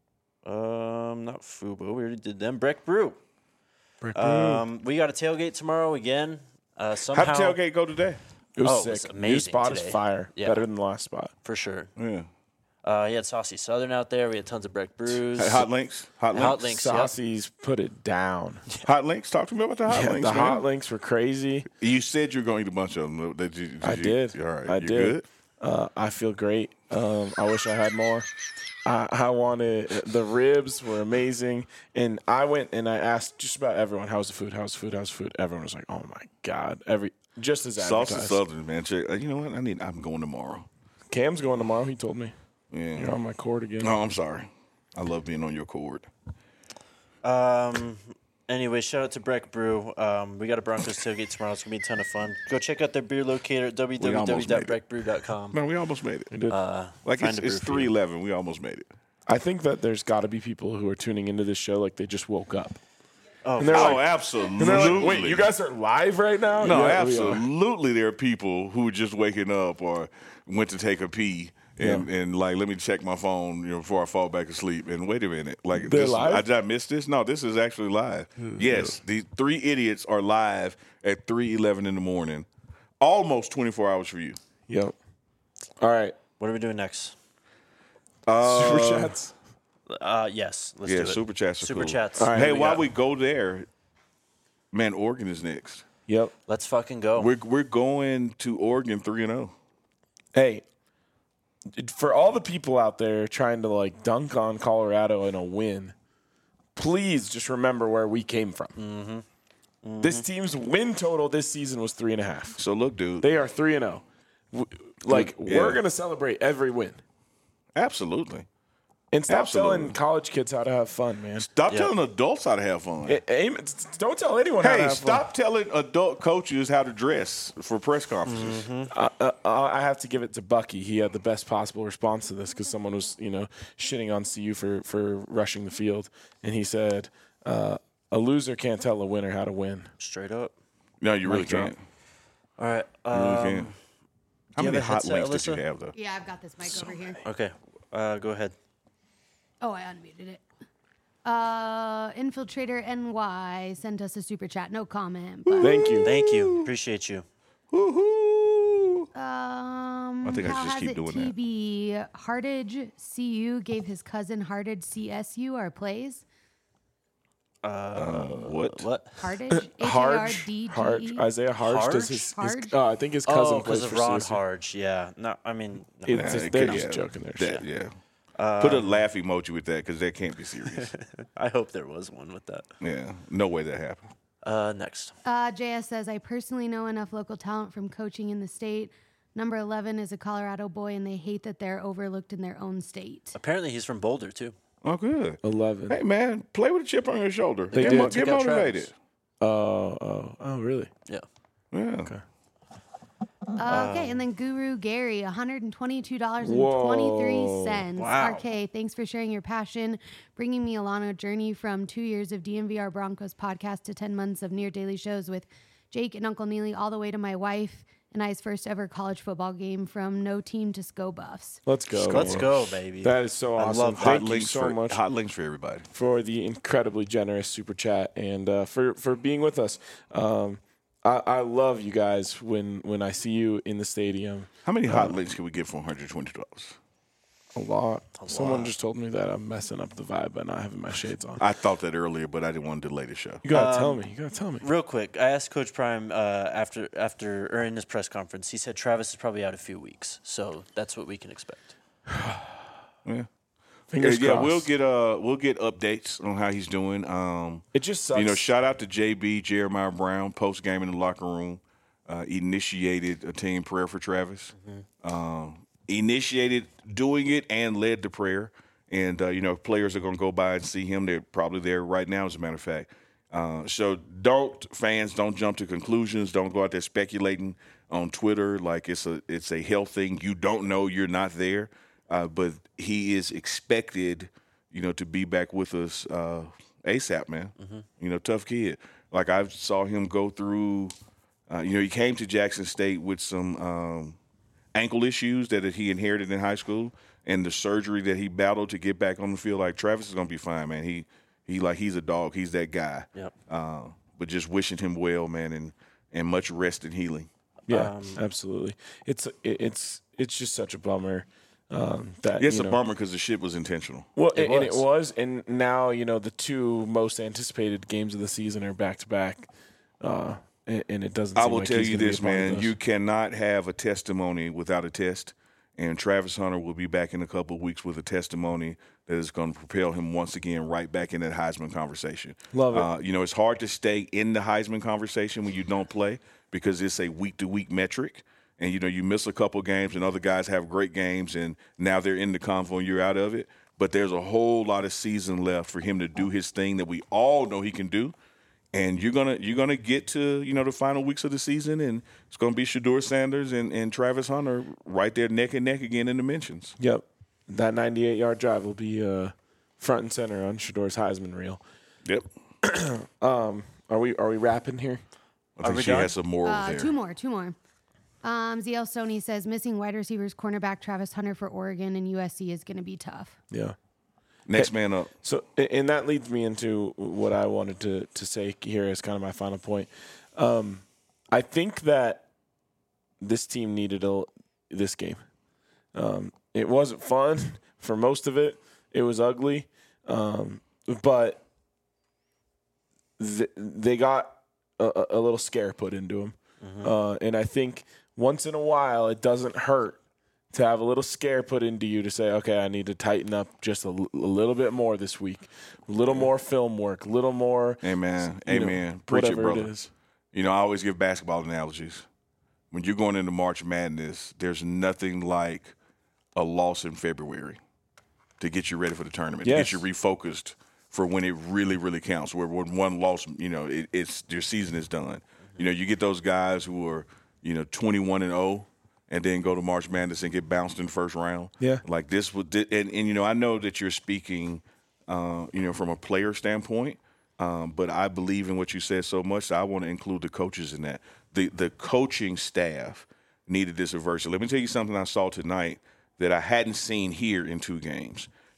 not Fubo, we already did them, Breck Brew. We got a tailgate tomorrow again. Somehow, How'd the tailgate go today? It was Oh, it sick. was New amazing spot today. is fire. Yeah. Better than the last spot. for sure. Yeah. He had Saucy Southern out there. We had tons of Breck Brews. Hey, hot links. Hot links. Hot links. Yep. Saucy's put it down. Hot links. Talk to me about the hot Yeah, links. the man. hot links were crazy. You said you were going to eat a bunch of them. I did. All right. I you did. Good? I feel great. I wish I had more. I wanted the ribs were amazing, and I went and I asked just about everyone, "How's the food? How's the food? How's the food?" Everyone was like, "Oh my god!" Just as Sauce advertised. Southern, man. Check. You know what? I'm going tomorrow. Cam's going tomorrow. He told me. Yeah. You're on my court again. No, I'm sorry. I love being on your court. Anyway, shout out to Breck Brew. We got a Broncos tailgate tomorrow. It's going to be a ton of fun. Go check out their beer locator at almost made it. www.breckbrew.com. No, we almost made it. We did. Like find a it's brew for you. 3:11. We almost made it. I think that there's got to be people who are tuning into this show like they just woke up. Oh, And they're like, Absolutely. and they're like, wait, you guys are live right now? No, Yeah, we are. absolutely. There are people who are just waking up or went to take a pee and like, let me check my phone, before I fall back asleep. And wait a minute, like, They're live? Did I miss this? No, this is actually live. Yes, these 3 idiots are live at 3:11 in the morning, almost 24 hours for you. Yep. All right. what are we doing next? Super chats. Yes, let's Yeah, do it. super chats are Super cool. chats. All right. Hey, we while got- we go there, man, Oregon is next. Yep. Let's fucking go. We're going to Oregon 3-0. Hey, for all the people out there trying to like dunk on Colorado in a win, please just remember where we came from. This team's win total this season was 3.5. So look, dude, They are 3-0. Like Yeah. we're gonna celebrate every win absolutely. and stop Absolutely. telling college kids how to have fun, man. Stop Yeah. telling adults how to have fun. Don't tell anyone how to Hey, have stop telling adult coaches how to dress for press conferences. fun. I have to give it to Bucky. He had the best possible response to this because someone was, shitting on CU for rushing the field, and he said, "A loser can't tell a winner how to win." Straight up. No, you really Mic drop. can't. All right. You really can't. How you many have a hot headset, links did Alyssa? you have, though? Yeah, I've got this mic over here. Okay. Go ahead. Oh, I unmuted it. Infiltrator NY sent us a super chat. No comment. But, Thank you. Thank you. Appreciate you. Woohoo! I think I how should just has keep it doing that. TB? Hardage CU gave his cousin Hardage CSU our plays. What? What? Hardage? Harge, H-A-R-D-G-E? Isaiah Harge does Harge? his Harge? I think his cousin Oh, plays because for of Ron CSU. Harge. Yeah. No, I mean, no. It's just, it they're could- just yeah, joking there. that, yeah. Put a laugh emoji with that because that can't be serious. I hope there was one with that. Yeah, no way that happened. Next. JS says, I personally know enough local talent from coaching in the state. Number 11 is a Colorado boy, and they hate that they're overlooked in their own state. Apparently, he's from Boulder, too. Oh, good. 11. Hey, man, play with a chip on your shoulder. They Get, did. get Took out motivated. Oh, really? Yeah. Yeah. Okay. Okay, and then Guru Gary, $122.23. Wow. RK, thanks for sharing your passion, bringing me along a journey from 2 years of DMVR Broncos podcast to 10 months of near daily shows with Jake and Uncle Neely, all the way to my wife and I's first ever college football game from no team to SCO Buffs. Let's go. Let's man. go, baby. That is so awesome. love Thank Hot you links so for much hot links for everybody. for the incredibly generous super chat and for being with us. I love you guys when I see you in the stadium. How many hot links can we get for $120? A lot. Someone just told me that I'm messing up the vibe by not having my shades on. I thought that earlier, but I didn't want to delay the show. You gotta tell me. You gotta tell me. Real quick, I asked Coach Prime after or in his press conference. He said Travis is probably out a few weeks, so that's what we can expect. Yeah. Fingers Yeah, crossed. we'll get updates on how he's doing. It just sucks. You know, shout out to JB Jeremiah Brown post game in the locker room. Initiated a team prayer for Travis. Initiated doing it and led the prayer. And you know, players are going to go by and see him. They're probably there right now, as a matter of fact. So fans don't jump to conclusions. Don't go out there speculating on Twitter like it's a health thing. You don't know. You're not there. But he is expected, you know, to be back with us ASAP, man. You know, tough kid. Like I saw him go through. You know, he came to Jackson State with some ankle issues that he inherited in high school, and the surgery that he battled to get back on the field. Like Travis is gonna be fine, man. He's a dog. He's that guy. Yep. But just wishing him well, man, and much rest and healing. Yeah, absolutely. It's just such a bummer that It's you a know, bummer because the shit was intentional. Well, and it was, and now you know the two most anticipated games of the season are back to back, and it doesn't. I Seem will like tell he's you gonna be this, a part of man. those. You cannot have a testimony without a test. And Travis Hunter will be back in a couple of weeks with a testimony that is going to propel him once again right back in that Heisman conversation. Love it. You know, it's hard to stay in the Heisman conversation when you don't play because it's a week-to-week metric. And, you know, you miss a couple games and other guys have great games and now they're in the convo and you're out of it. But there's a whole lot of season left for him to do his thing that we all know he can do. And you're gonna get to, you know, the final weeks of the season, and it's gonna be Shedeur Sanders and Travis Hunter right there neck and neck again in the mentions. Yep, that 98-yard drive will be front and center on Shedeur's Heisman reel. Yep. Are we wrapping here? I think she has some more over there. Two more. ZL Sony says, missing wide receivers cornerback Travis Hunter for Oregon and USC is going to be tough. Yeah. Next man up. So, and that leads me into what I wanted to say here as kind of my final point. I think that this team needed this game. It wasn't fun for most of it. It was ugly, but they got a little scare put into them. And I think once in a while it doesn't hurt to have a little scare put into you to say, okay, I need to tighten up just a little bit more this week, a little more film work, a little more. Amen. you know, Amen. Preach it, whatever brother. it is. You know, I always give basketball analogies. When you're going into March Madness, there's nothing like a loss in February to get you ready for the tournament, Yes. to get you refocused for when it really, really counts. Where when one loss, you know, it's your season is done. You know, you get those guys who are, you know, 21-0, and then go to March Madness and get bounced in the first round. Yeah. Like this would, and you know, I know that you're speaking, you know, from a player standpoint, but I believe in what you said so much that I want to include the coaches in that. The coaching staff needed this reversal. Let me tell you something I saw tonight that I hadn't seen here in two games.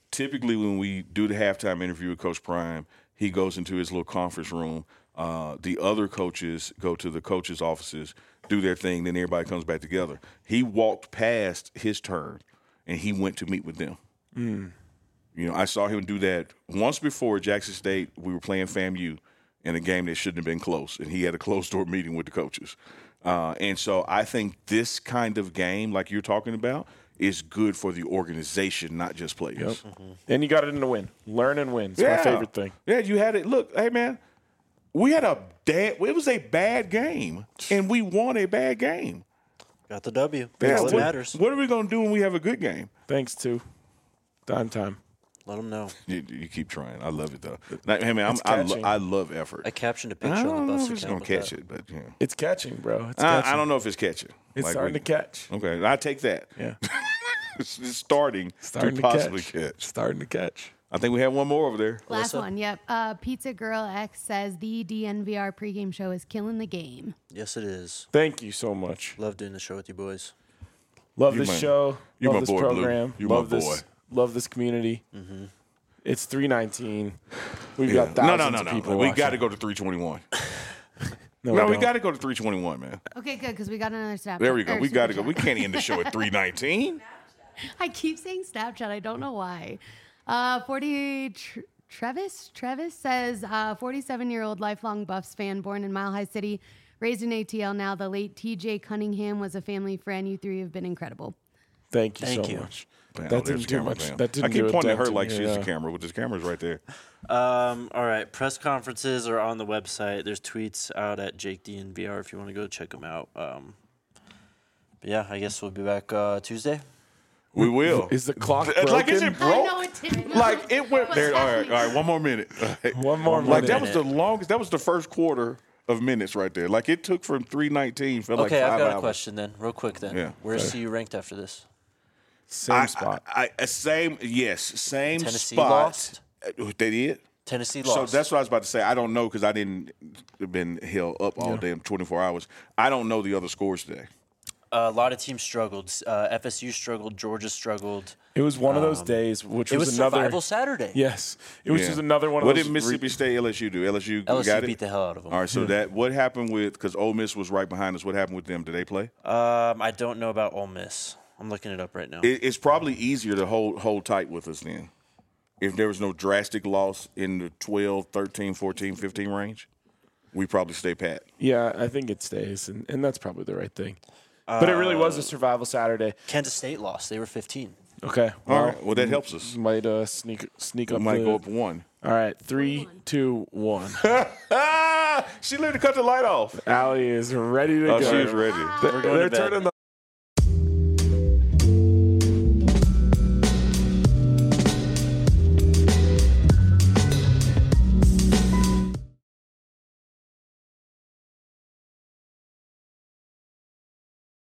typically when we do the halftime interview with Coach Prime, he goes into his little conference room. The other coaches go to the coaches' offices, do their thing, then everybody comes back together. He walked past his turn, and he went to meet with them. You know, I saw him do that once before at Jackson State. We were playing FAMU in a game that shouldn't have been close, and he had a closed-door meeting with the coaches. And so I think this kind of game, like you're talking about, is good for the organization, not just players. Yep. And you got it in the win. Learn and win. It's my favorite thing. Yeah, you had it. Look, hey, man, it was a bad game, and we won a bad game. Got the W. Yeah, That's what matters. What are we going to do when we have a good game? Thanks to Dime Time. Let them know. You keep trying. I love it, though. Now, hey, man, It's catching. I love effort. I captioned a picture I on don't the know bus if it's account going to with catch that. it, but yeah. It's catching, bro. It's catching. I don't know if it's catching. It's Like, starting to catch. Okay, I take that. Yeah. It's starting Starting to to possibly catch. catch. Starting to catch. I think we have one more over there. Last Alyssa? one, yep. Pizza Girl X says the DNVR pregame show is killing the game. Yes, it is. Thank you so much. Love doing the show with you boys. Love You this my- show. you love my this boy, Blue. program. You my love this. boy. Love this community. It's 319. We've Yeah. got thousands No. of people We watching. got to go to 321. No, No, we don't. got to go to 321, man. Okay, good, because we got another Snapchat. There we go. or We got to Super go. We Chat. can't end the show at 319. I keep saying Snapchat. I don't know why. Travis says, 47-year-old lifelong Buffs fan born in Mile High City, raised in ATL now. The late TJ Cunningham was a family friend. You three have been incredible. Thank you Thank so you. much. Man, That oh, there's didn't do camera, much. man. That didn't I keep do a pointing at dent her in like your, she's the camera, but this camera's right there. All right. Press conferences are on the website. There's tweets out at Jake DNVR if you want to go check them out. But yeah, I guess we'll be back Tuesday. We will. Is the clock broken? Like, is it I broke? know it didn't. Like, it went What's there. All happening? right. One more minute. One more Like, that minute. was the longest. That was the first quarter of minutes right there. Like, it took from 319, felt Okay, like 5 I've got hours. a question then, real quick then. Yeah. Where's CU ranked after this? Same spot. Same Tennessee spot. lost? They did? Tennessee So lost. that's what I was about to say. I don't know because I didn't been held up all damn 24 hours. I don't know the other scores today. A lot of teams struggled. FSU struggled. Georgia struggled. It was one of those days, which It was was another. Survival Saturday. Yes, it was Yeah. just another one of What those. did Mississippi State LSU do? LSU got LSU it? beat the hell out of them. All right, so that what happened with because Ole Miss was right behind us. What happened with them? Did they play? I don't know about Ole Miss. I'm looking it up right now. It's probably easier to hold tight with us then. If there was no drastic loss in the 12, 13, 14, 15 range, we probably stay pat. Yeah, I think it stays, and that's probably the right thing. But it really was a survival Saturday. Kansas State lost. They were 15. Okay, All right, well, that helps us. might sneak We up. might the- go up one. All right, 3, 2, 1. She literally cut the light off. Allie is ready to Oh, go. she is ready. We're going They're to bed. turning the